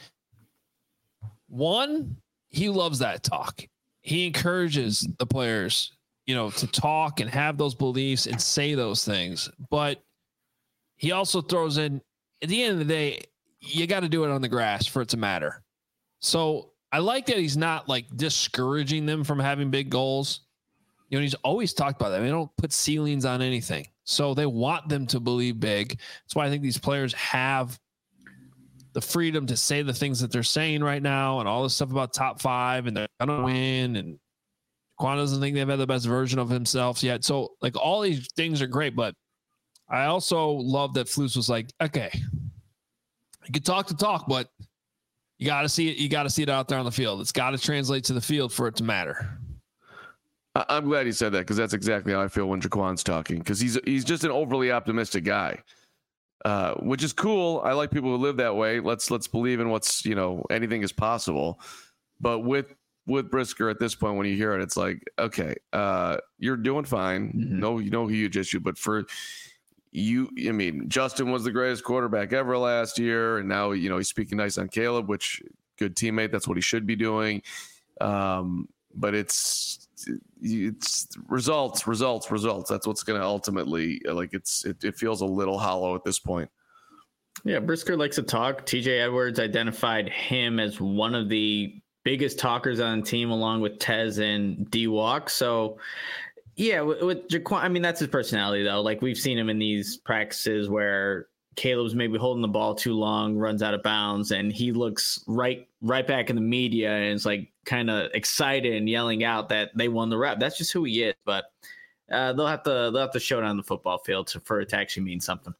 Speaker 1: One, he loves that talk. He encourages the players, to talk and have those beliefs and say those things. But he also throws in, at the end of the day, you got to do it on the grass for it to matter. So I like that he's not like discouraging them from having big goals. He's always talked about that. They don't put ceilings on anything. So they want them to believe big. That's why I think these players have the freedom to say the things that they're saying right now and all this stuff about top 5 and they're going to win. And Quan doesn't think they've had the best version of himself yet. So like all these things are great, but I also love that Flus was like, okay, you can talk the talk, but you got to see it. You got to see it out there on the field. It's got to translate to the field for it to matter.
Speaker 2: I'm glad he said that, because that's exactly how I feel when Jaquan's talking, because he's just an overly optimistic guy, which is cool. I like people who live that way. Let's believe in what's, anything is possible. But with Brisker at this point, when you hear it, it's like, okay, you're doing fine.
Speaker 3: Mm-hmm.
Speaker 2: No, who you just you, but for you, Justin was the greatest quarterback ever last year, and now he's speaking nice on Caleb, which good teammate. That's what he should be doing. But it's results. That's what's going to ultimately, it feels a little hollow at this point.
Speaker 3: Yeah, Brisker likes to talk. TJ Edwards identified him as one of the biggest talkers on the team, along with Tez and D-Walk. So, yeah, with Jaquan, I mean, that's his personality, though. Like, we've seen him in these practices where Caleb's maybe holding the ball too long, runs out of bounds, and he looks right back in the media and is like kind of excited and yelling out that they won the rep. That's just who he is. But they'll have to show it on the football field for it to actually mean something.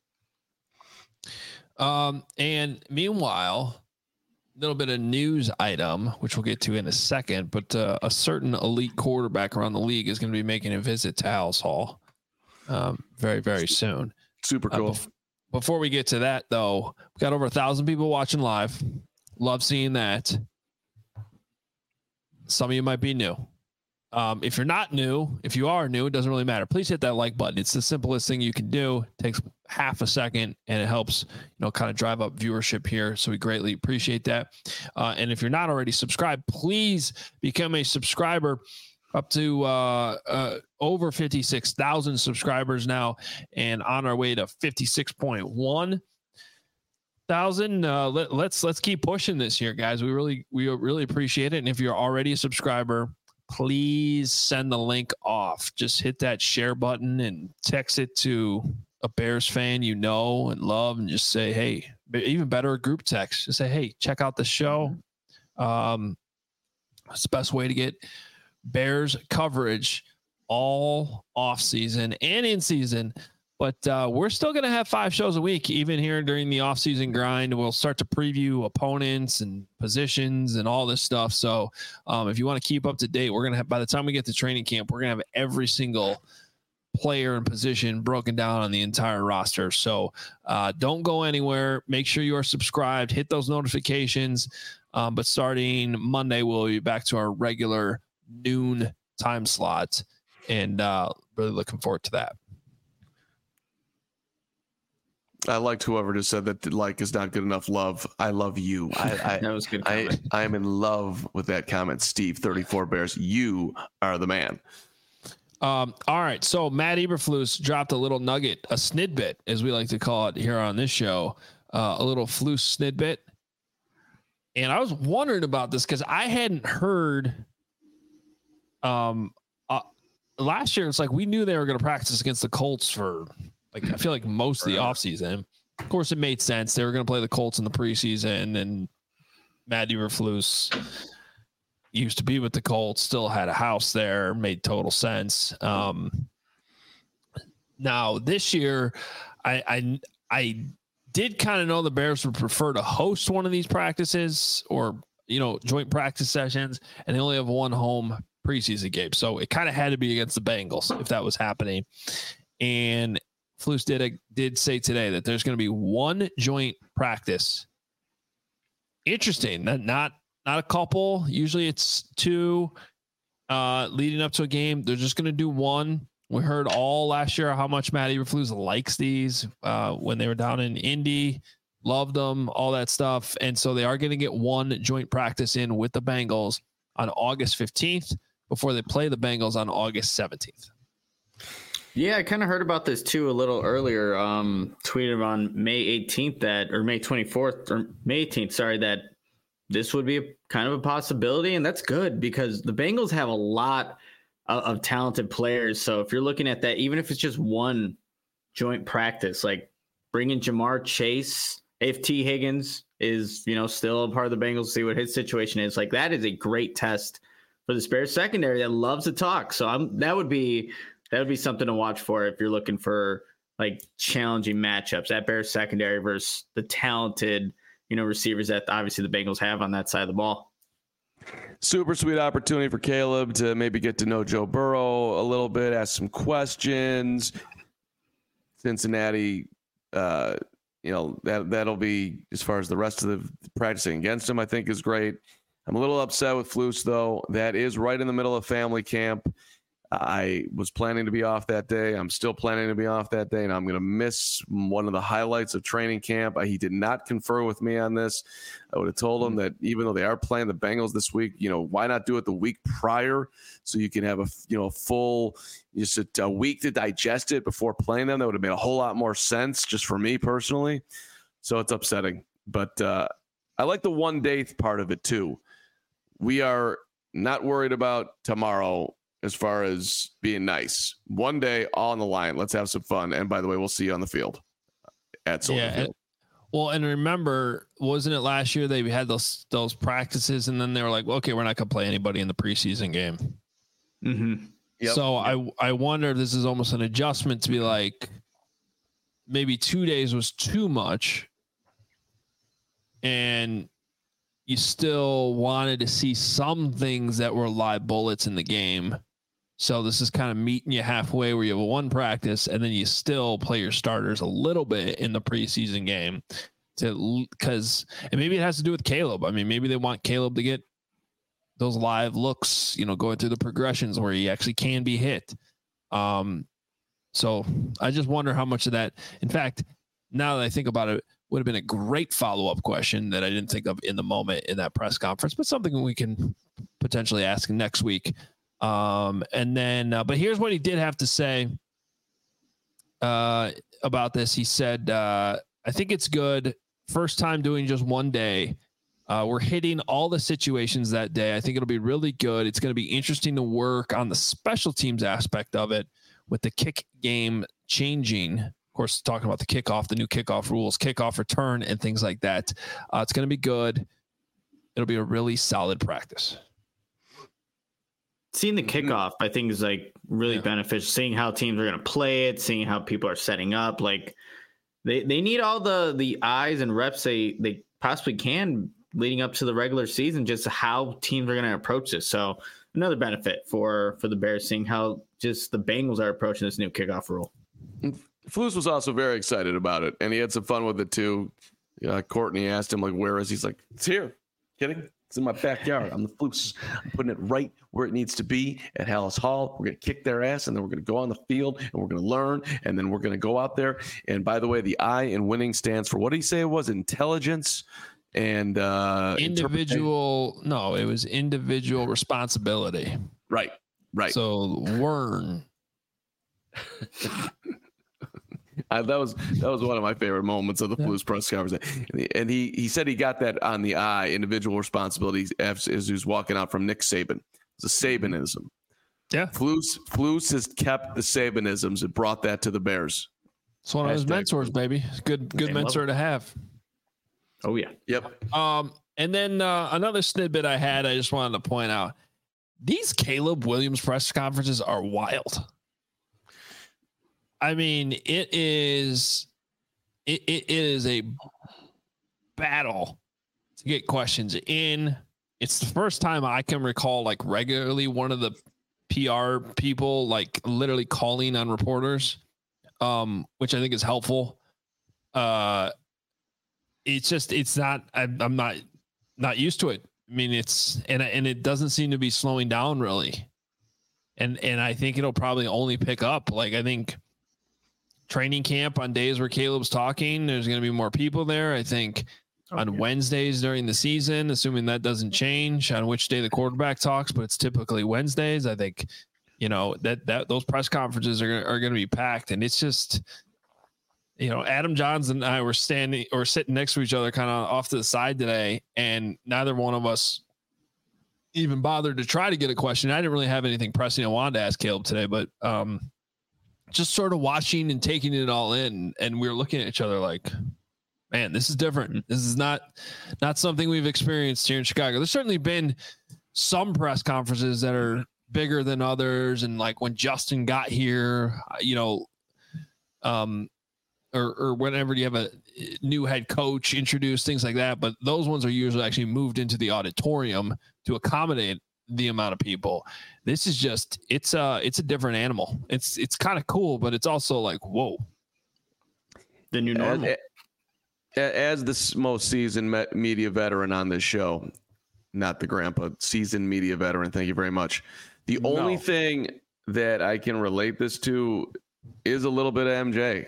Speaker 1: And meanwhile, a little bit of news item, which we'll get to in a second, but a certain elite quarterback around the league is going to be making a visit to Halas Hall very, very soon.
Speaker 2: Super cool.
Speaker 1: Before we get to that, though, we've got over 1,000 people watching live. Love seeing that. Some of you might be new. If you're not new, if you are new, it doesn't really matter. Please hit that like button. It's the simplest thing you can do. It takes half a second, and it helps, kind of drive up viewership here. So we greatly appreciate that. And if you're not already subscribed, please become a subscriber. Up to over 56,000 subscribers now, and on our way to 56.1 thousand. Let's keep pushing this here, guys. We really appreciate it. And if you're already a subscriber, please send the link off. Just hit that share button and text it to a Bears fan you know and love, and just say, hey, even better, a group text. Just say, hey, check out the show. It's the best way to get Bears coverage all off season and in season. But we're still going to have 5 shows a week, even here during the offseason grind. We'll start to preview opponents and positions and all this stuff. So if you want to keep up to date, we're going to have, by the time we get to training camp, we're going to have every single player and position broken down on the entire roster. So don't go anywhere. Make sure you are subscribed. Hit those notifications. But starting Monday, we'll be back to our regular noon time slot, and really looking forward to that.
Speaker 2: I liked whoever just said that like is not good enough love. I love you.
Speaker 3: That was good.
Speaker 2: I am in love with that comment, Steve. 34 Bears. You are the man.
Speaker 1: All right. So Matt Eberflus dropped a little nugget, a snidbit, as we like to call it here on this show, a little Flus snidbit. And I was wondering about this because I hadn't heard. Last year, it's like we knew they were going to practice against the Colts for, like, I feel like most of the offseason. Of course, it made sense. They were going to play the Colts in the preseason, and Matt Eberflus used to be with the Colts, still had a house there, made total sense. Now, this year, I did kind of know the Bears would prefer to host one of these practices or, joint practice sessions, and they only have one home preseason game. So it kind of had to be against the Bengals if that was happening. And Flus did say today that there's going to be one joint practice. Interesting. Not a couple. Usually it's 2 leading up to a game. They're just going to do one. We heard all last year how much Matt Eberflus likes these when they were down in Indy. Loved them, all that stuff. And so they are going to get one joint practice in with the Bengals on August 15th before they play the Bengals on August 17th.
Speaker 3: Yeah, I kind of heard about this too a little earlier. Tweeted on May 18th May 24th or May 18th, that this would be kind of a possibility. And that's good because the Bengals have a lot of talented players. So if you're looking at that, even if it's just one joint practice, like bringing Jamar Chase, if T. Higgins is, still a part of the Bengals, see what his situation is. Like, that is a great test for the Bears secondary that loves to talk. So that would be something to watch for if you're looking for like challenging matchups. That Bears secondary versus the talented, receivers that obviously the Bengals have on that side of the ball.
Speaker 2: Super sweet opportunity for Caleb to maybe get to know Joe Burrow a little bit, ask some questions. Cincinnati, that'll be, as far as the rest of the practicing against him, I think is great. I'm a little upset with Flus, though. That is right in the middle of family camp. I was planning to be off that day. I'm still planning to be off that day, and I'm going to miss one of the highlights of training camp. He did not confer with me on this. I would have told him that even though they are playing the Bengals this week, why not do it the week prior so you can have a full, just a week to digest it before playing them? That would have made a whole lot more sense just for me personally. So it's upsetting. But I like the one-day part of it, too. We are not worried about tomorrow as far as being nice. One day, all on the line. Let's have some fun. And by the way, we'll see you on the field at Soldier Field.
Speaker 1: Well, and remember, wasn't it last year they had those practices, and then they were like, well, okay, we're not going to play anybody in the preseason game.
Speaker 3: Mm-hmm.
Speaker 2: Yep.
Speaker 1: So I wonder if this is almost an adjustment to be like, maybe 2 days was too much, and you still wanted to see some things that were live bullets in the game. So this is kind of meeting you halfway where you have one practice and then you still play your starters a little bit in the preseason game and maybe it has to do with Caleb. I mean, maybe they want Caleb to get those live looks, going through the progressions where he actually can be hit. So I just wonder how much of that, in fact, now that I think about it, would have been a great follow-up question that I didn't think of in the moment in that press conference, but something we can potentially ask next week. And then, but here's what he did have to say about this. He said, I think it's good. First time doing just one day. We're hitting all the situations that day. I think it'll be really good. It's going to be interesting to work on the special teams aspect of it with the kick game changing. Of course, talking about the kickoff, the new kickoff rules, kickoff return, and things like that. It's going to be good. It'll be a really solid practice.
Speaker 3: Seeing the kickoff, I think, is like really beneficial. Seeing how teams are going to play it, seeing how people are setting up. Like they need all the eyes and reps they possibly can leading up to the regular season, just how teams are going to approach this. So another benefit for the Bears, seeing how just the Bengals are approaching this new kickoff rule.
Speaker 2: Flus was also very excited about it, and he had some fun with it too. Courtney asked him, like, where is he? He's like, it's here. Kidding? It's in my backyard. I'm the Flus. I'm putting it right where it needs to be at Hallis Hall. We're going to kick their ass, and then we're going to go on the field, and we're going to learn, and then we're going to go out there. And by the way, the I in winning stands for, what did he say it was? Intelligence and
Speaker 1: individual. No, it was individual responsibility.
Speaker 2: Right.
Speaker 1: So learn.
Speaker 2: That was one of my favorite moments of the Blues press conference, and he said he got that on the eye, individual responsibility, as he was walking out from Nick Saban. It's a Sabanism.
Speaker 1: Yeah,
Speaker 2: Flus has kept the Sabanisms and brought that to the Bears.
Speaker 1: It's one of his mentors, baby. Good mentor to have.
Speaker 3: Oh yeah,
Speaker 2: yep.
Speaker 1: And then another snippet I just wanted to point out: these Caleb Williams press conferences are wild. I mean, it is a battle to get questions in. It's the first time I can recall, like, regularly one of the PR people, like, literally calling on reporters, which I think is helpful. It's not, I'm not used to it. I mean, and it doesn't seem to be slowing down really. And I think it'll probably only pick up. Like, I think training camp on days where Caleb's talking, there's going to be more people there. I think on Wednesdays during the season, assuming that doesn't change on which day the quarterback talks, but it's typically Wednesdays. I think, that those press conferences are going to be packed. And it's just, Adam Johns and I were sitting next to each other kind of off to the side today, and neither one of us even bothered to try to get a question. I didn't really have anything pressing I wanted to ask Caleb today, but just sort of watching and taking it all in. And we were looking at each other like, man, this is different. This is not something we've experienced here in Chicago. There's certainly been some press conferences that are bigger than others. And like when Justin got here, or whenever you have a new head coach introduce, things like that. But those ones are usually actually moved into the auditorium to accommodate the amount of people. This is just, it's a different animal. It's kind of cool, but it's also like, whoa,
Speaker 3: the new normal.
Speaker 2: As the most seasoned media veteran on this show, not the grandpa, seasoned media veteran, thank you very much. The only thing that I can relate this to is a little bit of MJ.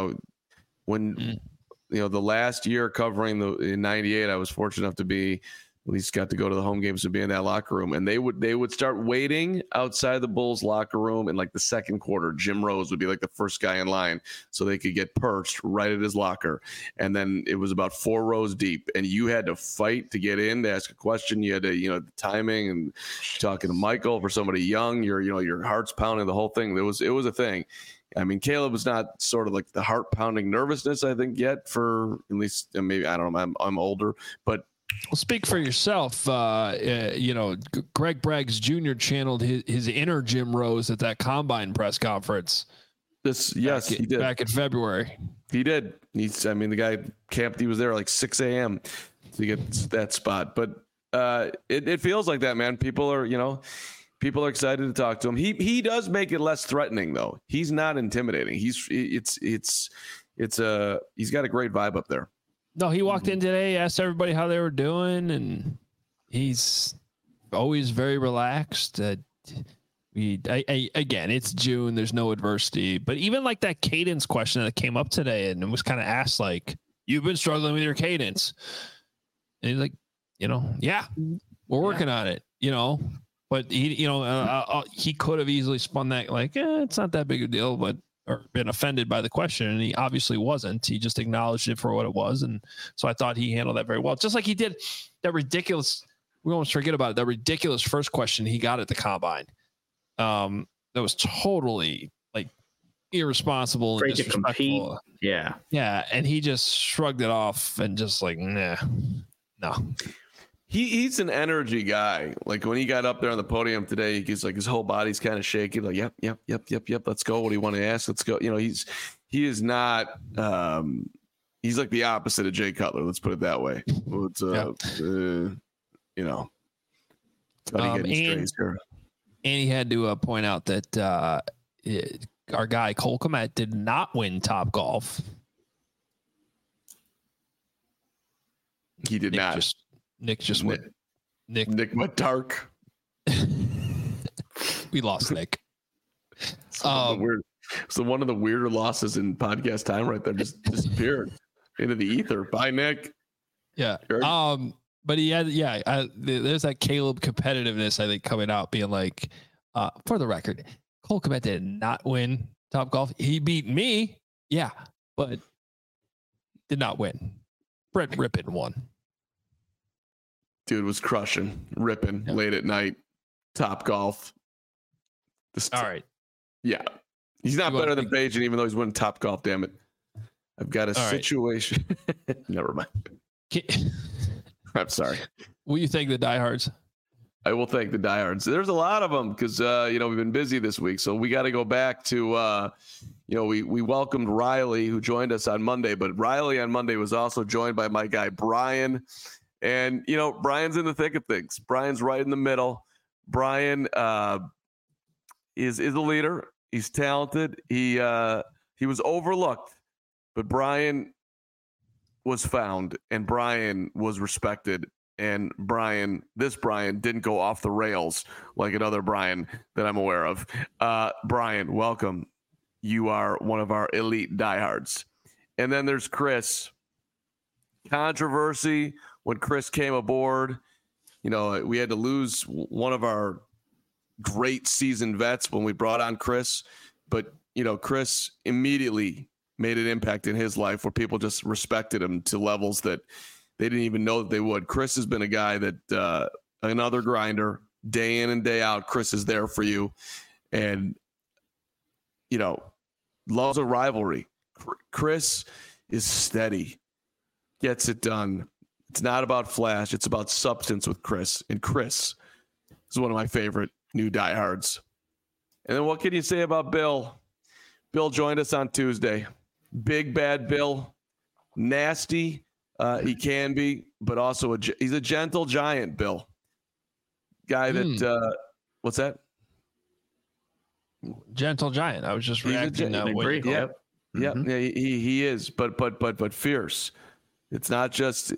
Speaker 2: When the last year covering in '98, I was fortunate enough to be at least got to go to the home games and be in that locker room. And they would start waiting outside the Bulls locker room in like the second quarter. Jim Rose would be like the first guy in line so they could get perched right at his locker. And then it was about 4 rows deep, and you had to fight to get in to ask a question. You had to, the timing and talking to Michael for somebody young, your heart's pounding, the whole thing. It was a thing. I mean, Caleb was not sort of like the heart pounding nervousness, I think, yet, for at least maybe, I don't know. I'm older, but.
Speaker 1: Well, speak for yourself. Greg Braggs Jr. channeled his inner Jim Rose at that combine press conference.
Speaker 2: He did
Speaker 1: back in February.
Speaker 2: He did. The guy camped. He was there like 6 a.m. to get that spot. But it feels like that, man. People are excited to talk to him. He does make it less threatening, though. He's not intimidating. He's got a great vibe up there.
Speaker 1: No, he walked in today, asked everybody how they were doing, and he's always very relaxed. Again, it's June. There's no adversity. But even like that cadence question that came up today, and it was kind of asked like, "You've been struggling with your cadence," and he's like, "Yeah, we're working on it." But he could have easily spun that like, it's not that big a deal, or been offended by the question, and he obviously wasn't. He just acknowledged it for what it was, and so I thought he handled that very well. Just like he did that ridiculous. We almost forget about it. That ridiculous first question he got at the combine. That was totally like irresponsible and disrespectful.
Speaker 3: Yeah,
Speaker 1: and he just shrugged it off and just like, nah, no.
Speaker 2: He's an energy guy. Like when he got up there on the podium today, he's like his whole body's kind of shaking. Like, yep. Let's go. What do you want to ask? Let's go. He is not. He's like the opposite of Jay Cutler. Let's put it that way.
Speaker 1: And he had to point out that our guy Cole Kmet did not win Topgolf.
Speaker 2: He did not.
Speaker 1: Nick just went.
Speaker 2: Nick went dark.
Speaker 1: We lost Nick.
Speaker 2: So one of the weirder losses in podcast time right there just disappeared into the ether. Bye, Nick.
Speaker 1: Yeah. Sure. But he had, there's that Caleb competitiveness, I think, coming out being like, for the record, Cole Kmet did not win Topgolf. He beat me. Yeah. But did not win. Brett Rippon won.
Speaker 2: Dude was crushing, ripping late at night, Topgolf.
Speaker 1: All right.
Speaker 2: Yeah. He's not better than Bajan, even though he's winning Topgolf, damn it. I've got a situation. Right. Never mind. I'm sorry.
Speaker 1: Will you thank the diehards?
Speaker 2: I will thank the diehards. There's a lot of them because, we've been busy this week. So we got to go back to, we welcomed Riley, who joined us on Monday. But Riley on Monday was also joined by my guy, Brian. And, Brian's in the thick of things. Brian's right in the middle. Brian is a leader. He's talented. He was overlooked, but Brian was found, and Brian was respected. And this Brian didn't go off the rails like another Brian that I'm aware of. Brian, welcome. You are one of our elite diehards. And then there's Chris. Controversy when Chris came aboard. We had to lose one of our great seasoned vets when we brought on Chris. But, Chris immediately made an impact in his life where people just respected him to levels that they didn't even know that they would. Chris has been a guy that another grinder, day in and day out. Chris is there for you. And, loves a rivalry. Chris is steady, gets it done. It's not about flash. It's about substance with Chris. And Chris is one of my favorite new diehards. And then what can you say about Bill? Bill joined us on Tuesday. Big bad Bill. Nasty. He can be, but also he's a gentle giant, Bill. Guy that what's that?
Speaker 1: Gentle giant. I was just reacting that way.
Speaker 2: Yeah, he is, but fierce. It's not just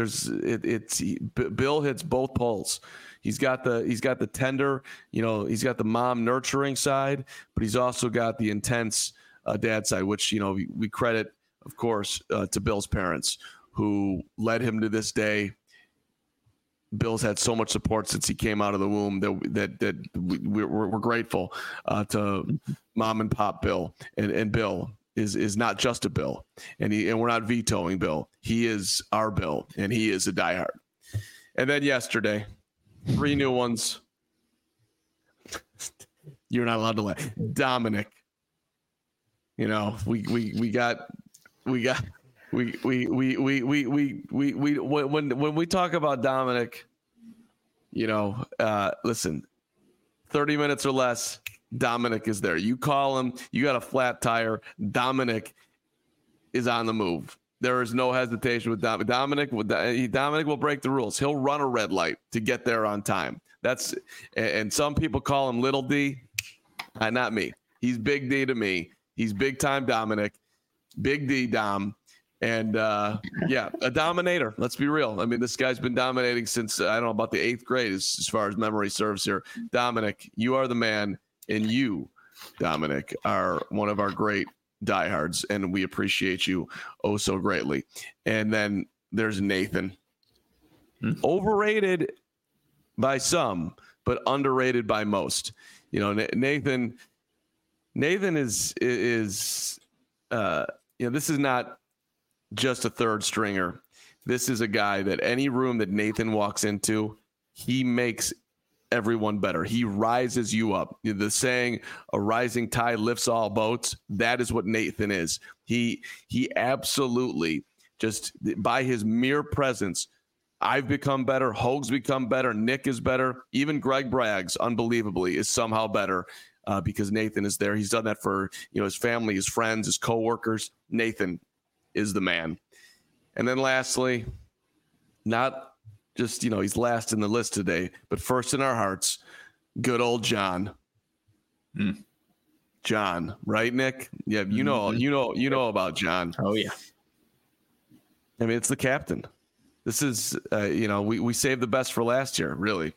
Speaker 2: Bill hits both poles. He's got the tender, he's got the mom nurturing side, but he's also got the intense dad side, which we credit, of course, to Bill's parents, who led him to this day. Bill's had so much support since he came out of the womb that we're grateful to Mom and Pop Bill, and Bill is not just a Bill, and we're not vetoing Bill. He is our Bill, and he is a diehard. And then yesterday, 3 new ones. You're not allowed to laugh. Dominic. You know, when we talk about Dominic, you know, listen, 30 minutes or less, Dominic is there. You call him, you got a flat tire, Dominic is on the move. There is no hesitation with Dominic. Dominic will break the rules. He'll run a red light to get there on time. And some people call him Little D. Not me. He's Big D to me. He's big time Dominic, Big D Dom. And a dominator. Let's be real. I mean, this guy's been dominating since, I don't know, about the 8th grade as far as memory serves here. Dominic, you are the man. And you, Dominic, are one of our great diehards. And we appreciate you oh so greatly. And then there's Nathan. Overrated by some, but underrated by most. You know, Nathan is this is not just a third stringer. This is a guy that any room that Nathan walks into, he makes everyone better. He rises you up. The saying, a rising tide lifts all boats. That is what Nathan is. He absolutely, just by his mere presence, I've become better. Hoag's become better. Nick is better. Even Greg Braggs, unbelievably, is somehow better because Nathan is there. He's done that for his family, his friends, his coworkers. Nathan is the man. And then lastly, not just, he's last in the list today, but first in our hearts, good old John. John, right, Nick? Yeah, you know about John.
Speaker 3: Oh yeah.
Speaker 2: I mean, it's the captain. This is, we saved the best for last year, really.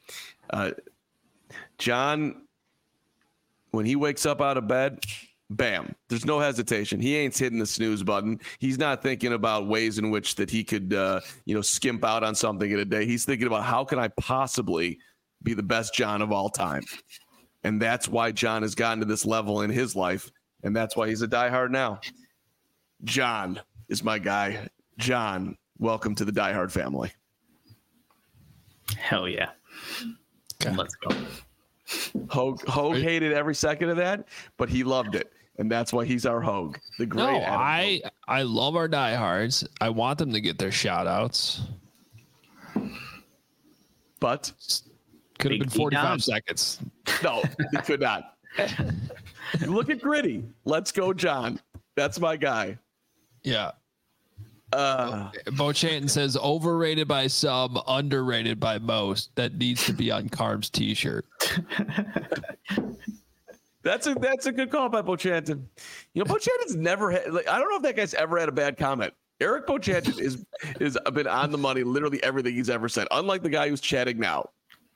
Speaker 2: John, when he wakes up out of bed, bam, there's no hesitation. He ain't hitting the snooze button. He's not thinking about ways in which that he could, skimp out on something in a day. He's thinking about, how can I possibly be the best John of all time? And that's why John has gotten to this level in his life. And that's why he's a diehard now. John is my guy. John, welcome to the diehard family.
Speaker 3: Hell yeah.
Speaker 1: Okay.
Speaker 3: Let's go.
Speaker 2: Hoag hated every second of that, but he loved it. And that's why he's our Hoag. The great
Speaker 1: I love our diehards. I want them to get their shout outs.
Speaker 2: But
Speaker 1: could have been 45 seconds.
Speaker 2: No, he could not. Look at Gritty. Let's go, John. That's my guy.
Speaker 1: Yeah. Bo Chanton says overrated by some, underrated by most. That needs to be on Carm's t-shirt.
Speaker 2: That's a good call by Bo Chanton. Bo Chanton's never had, I don't know if that guy's ever had a bad comment. Eric Bo Chanton is been on the money literally everything he's ever said, unlike the guy who's chatting now.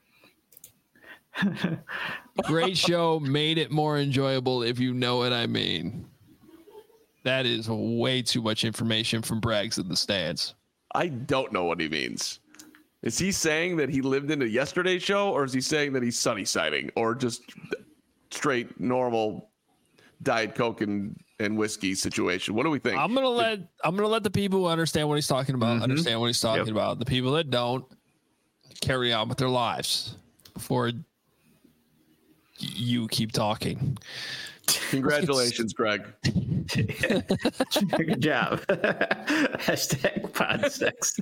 Speaker 1: Great show, made it more enjoyable, if you know what I mean. That is way too much information from Braggs in the stands.
Speaker 2: I don't know what he means. Is he saying that he lived into yesterday's show, or is he saying that he's sunny siding, or just straight normal Diet Coke and whiskey situation? What do we think?
Speaker 1: I'm gonna let the people who understand what he's talking about understand what he's talking about. The people that don't, carry on with their lives before you keep talking.
Speaker 2: Congratulations, Greg.
Speaker 3: Good job. Hashtag pod sex.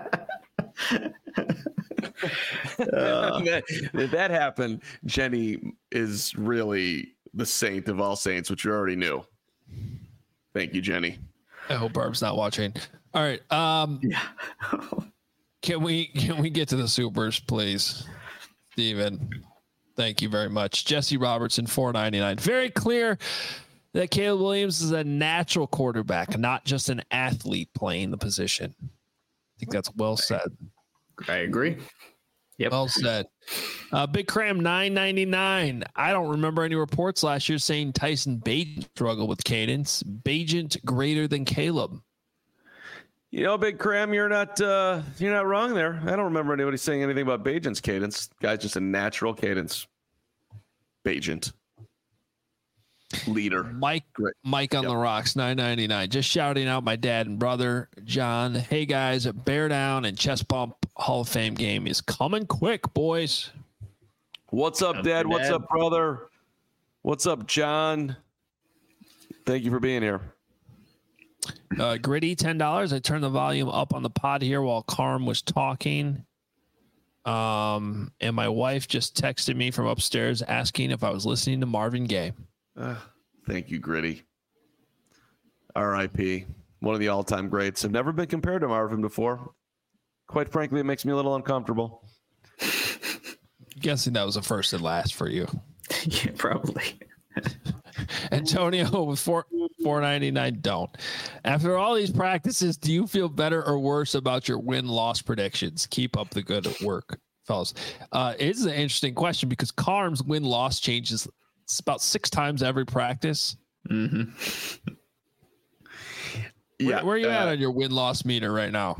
Speaker 2: If that happened, Jenny is really the saint of all saints, which you already knew. Thank you, Jenny.
Speaker 1: I hope Barb's not watching. All right.
Speaker 3: Yeah.
Speaker 1: Can we get to the supers, please, Steven? Thank you very much. Jesse Robertson, $4.99. Very clear that Caleb Williams is a natural quarterback, not just an athlete playing the position. I think that's well said.
Speaker 3: I agree. Yep.
Speaker 1: Well said. Big Cram, $9.99. I don't remember any reports last year saying Tyson Bagent struggled with cadence. Bagent greater than Caleb.
Speaker 2: You know, Big Cram, you're not wrong there. I don't remember anybody saying anything about Bajent's cadence. Guy's just a natural cadence. Bajent. Leader.
Speaker 1: Mike on the rocks, $9.99. Just shouting out my dad and brother, John. Hey, guys, bear down and chest bump Hall of Fame game is coming quick, boys.
Speaker 2: What's up, Dad? What's up, brother? What's up, John? Thank you for being here.
Speaker 1: Gritty, $10. I turned the volume up on the pod here while Carm was talking. And my wife just texted me from upstairs asking if I was listening to Marvin Gaye.
Speaker 2: Thank you, Gritty. R.I.P. One of the all-time greats. I've never been compared to Marvin before. Quite frankly, it makes me a little uncomfortable.
Speaker 1: Guessing that was a first and last for you.
Speaker 3: Yeah, probably.
Speaker 1: Antonio with $4.99. Don't. After all these practices, do you feel better or worse about your win-loss predictions? Keep up the good work, fellas. It's an interesting question because Carm's win-loss changes. It's about 6 times every practice.
Speaker 3: Mm-hmm.
Speaker 1: Where are you at on your win-loss meter right now?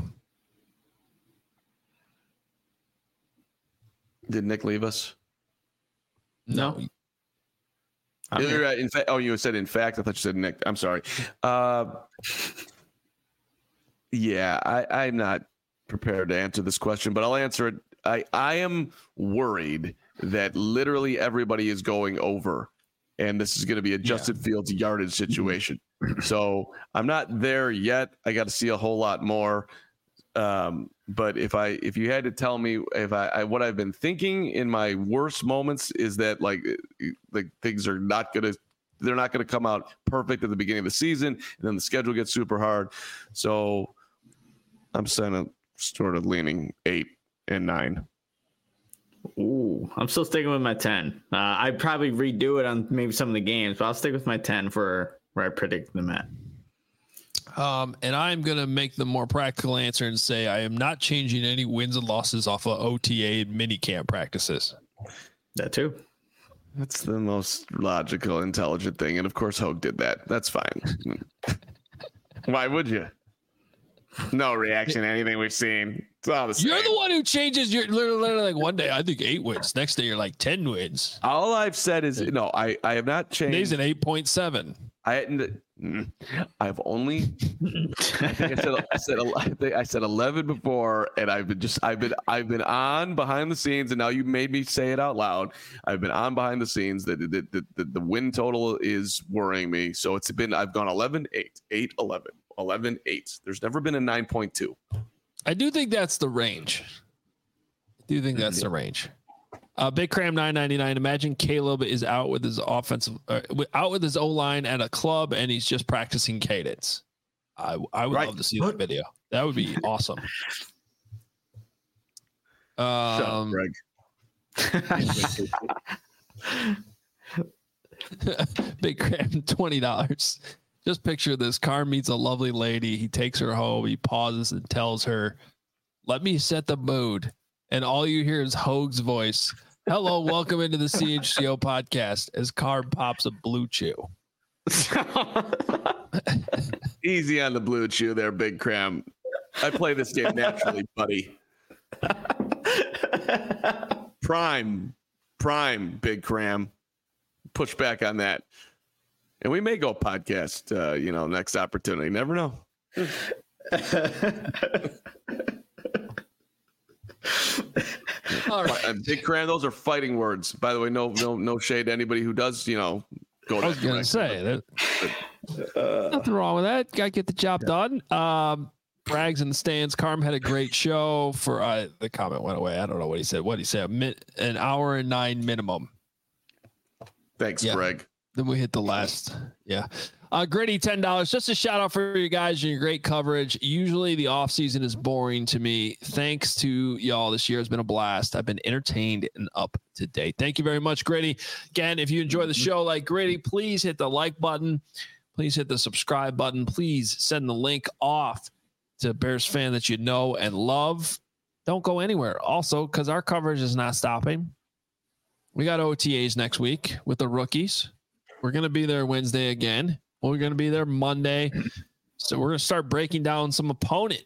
Speaker 2: Did Nick leave us?
Speaker 1: No.
Speaker 2: In fact, you said in fact. I thought you said Nick. I'm sorry. Yeah, I'm not prepared to answer this question, but I'll answer it. I am worried that literally everybody is going over, and this is going to be a Justin Fields yardage situation. So I'm not there yet. I got to see a whole lot more. But if you had to tell me what I've been thinking in my worst moments is that like things are they're not gonna come out perfect at the beginning of the season, and then the schedule gets super hard. So I'm sort of leaning 8 and 9.
Speaker 3: Ooh, I'm still sticking with my 10. I'd probably redo it on maybe some of the games, but I'll stick with my 10 for where I predict them at.
Speaker 1: And I'm going to make the more practical answer and say I am not changing any wins and losses off of OTA and minicamp practices.
Speaker 3: That too.
Speaker 2: That's the most logical, intelligent thing. And of course, Hogue did that. That's fine. Why would you? No reaction to anything we've seen. It's all the same.
Speaker 1: You're the one who changes. You're literally like one day, I think 8 wins. Next day, you're like 10 wins.
Speaker 2: All I've said is, no, I have not changed.
Speaker 1: Today's an 8.7.
Speaker 2: I've only I said 11 before, and I've been on behind the scenes, and now you made me say it out loud. I've been on behind the scenes that the win total is worrying me. So I've gone 11-8, 8-11, 11-8. There's never been a 9.2.
Speaker 1: I do think that's the range. Big Cram $9.99. Imagine Caleb is out with his O-line at a club, and he's just practicing cadence. I would love to see that video. That would be awesome.
Speaker 2: Shut up, Greg.
Speaker 1: Big Cram $20. Just picture this. Carm meets a lovely lady. He takes her home. He pauses and tells her, "Let me set the mood." And all you hear is Hogue's voice. "Hello, welcome into the CHGO podcast," as Carm pops a blue chew.
Speaker 2: Easy on the blue chew there, Big Cram. I play this game naturally, buddy. Prime, Big Cram. Push back on that. And we may go podcast, next opportunity. Never know.
Speaker 1: All right.
Speaker 2: Big Cram, those are fighting words. By the way, no shade to anybody who does, go to
Speaker 1: I was going to say that. Nothing wrong with that. Got to get the job done. Brags in the stands. Carm had a great show for the comment went away. I don't know what he said. An hour and 9 minimum.
Speaker 2: Thanks, Greg.
Speaker 1: Then we hit the last. Yeah. Gritty, $10. Just a shout out for you guys and your great coverage. Usually the off season is boring to me. Thanks to y'all. This year has been a blast. I've been entertained and up to date. Thank you very much, Gritty. Again, if you enjoy the show like Gritty, please hit the like button. Please hit the subscribe button. Please send the link off to a Bears fan that you know and love. Don't go anywhere. Also, because our coverage is not stopping. We got OTAs next week with the rookies. We're going to be there Wednesday again. We're going to be there Monday. So we're going to start breaking down some opponent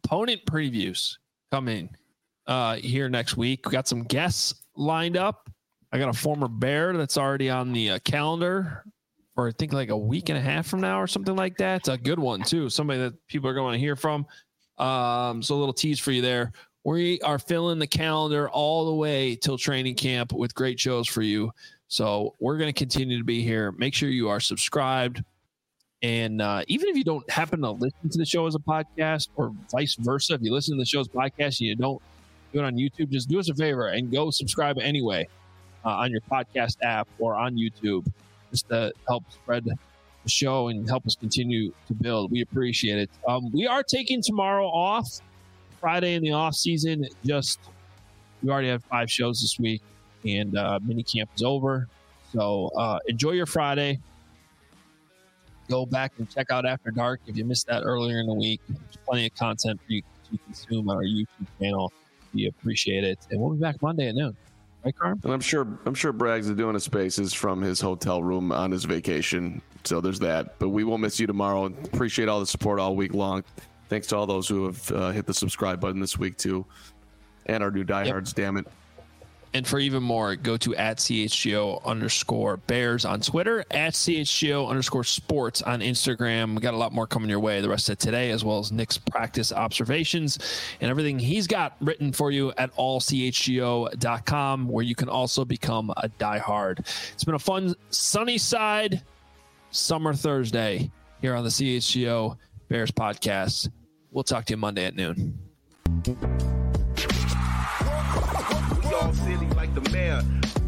Speaker 1: opponent previews coming here next week. We got some guests lined up. I got a former Bear that's already on the calendar for I think like a week and a half from now or something like that. It's a good one too. Somebody that people are going to hear from. So a little tease for you there. We are filling the calendar all the way till training camp with great shows for you. So we're going to continue to be here. Make sure you are subscribed. And even if you don't happen to listen to the show as a podcast or vice versa, if you listen to the show as a podcast and you don't do it on YouTube, just do us a favor and go subscribe anyway on your podcast app or on YouTube, just to help spread the show and help us continue to build. We appreciate it. We are taking tomorrow off, Friday in the off season. We already have 5 shows this week, and mini camp is over. So enjoy your Friday. Go back and check out After Dark if you missed that earlier in the week. There's plenty of content for you to consume on our YouTube channel. We appreciate it, and we'll be back Monday at noon. Right, Carm?
Speaker 2: And I'm sure Braggs is doing his spaces from his hotel room on his vacation. So there's that. But we will miss you tomorrow. Appreciate all the support all week long. Thanks to all those who have hit the subscribe button this week too, and our new diehards. Yep. Damn it.
Speaker 1: And for even more, go to @CHGO_Bears on Twitter, @CHGO_Sports on Instagram. We got a lot more coming your way the rest of today, as well as Nick's practice observations and everything he's got written for you at allchgo.com, where you can also become a diehard. It's been a fun sunny side summer Thursday here on the CHGO Bears podcast. We'll talk to you Monday at noon.
Speaker 4: Silly like the mayor.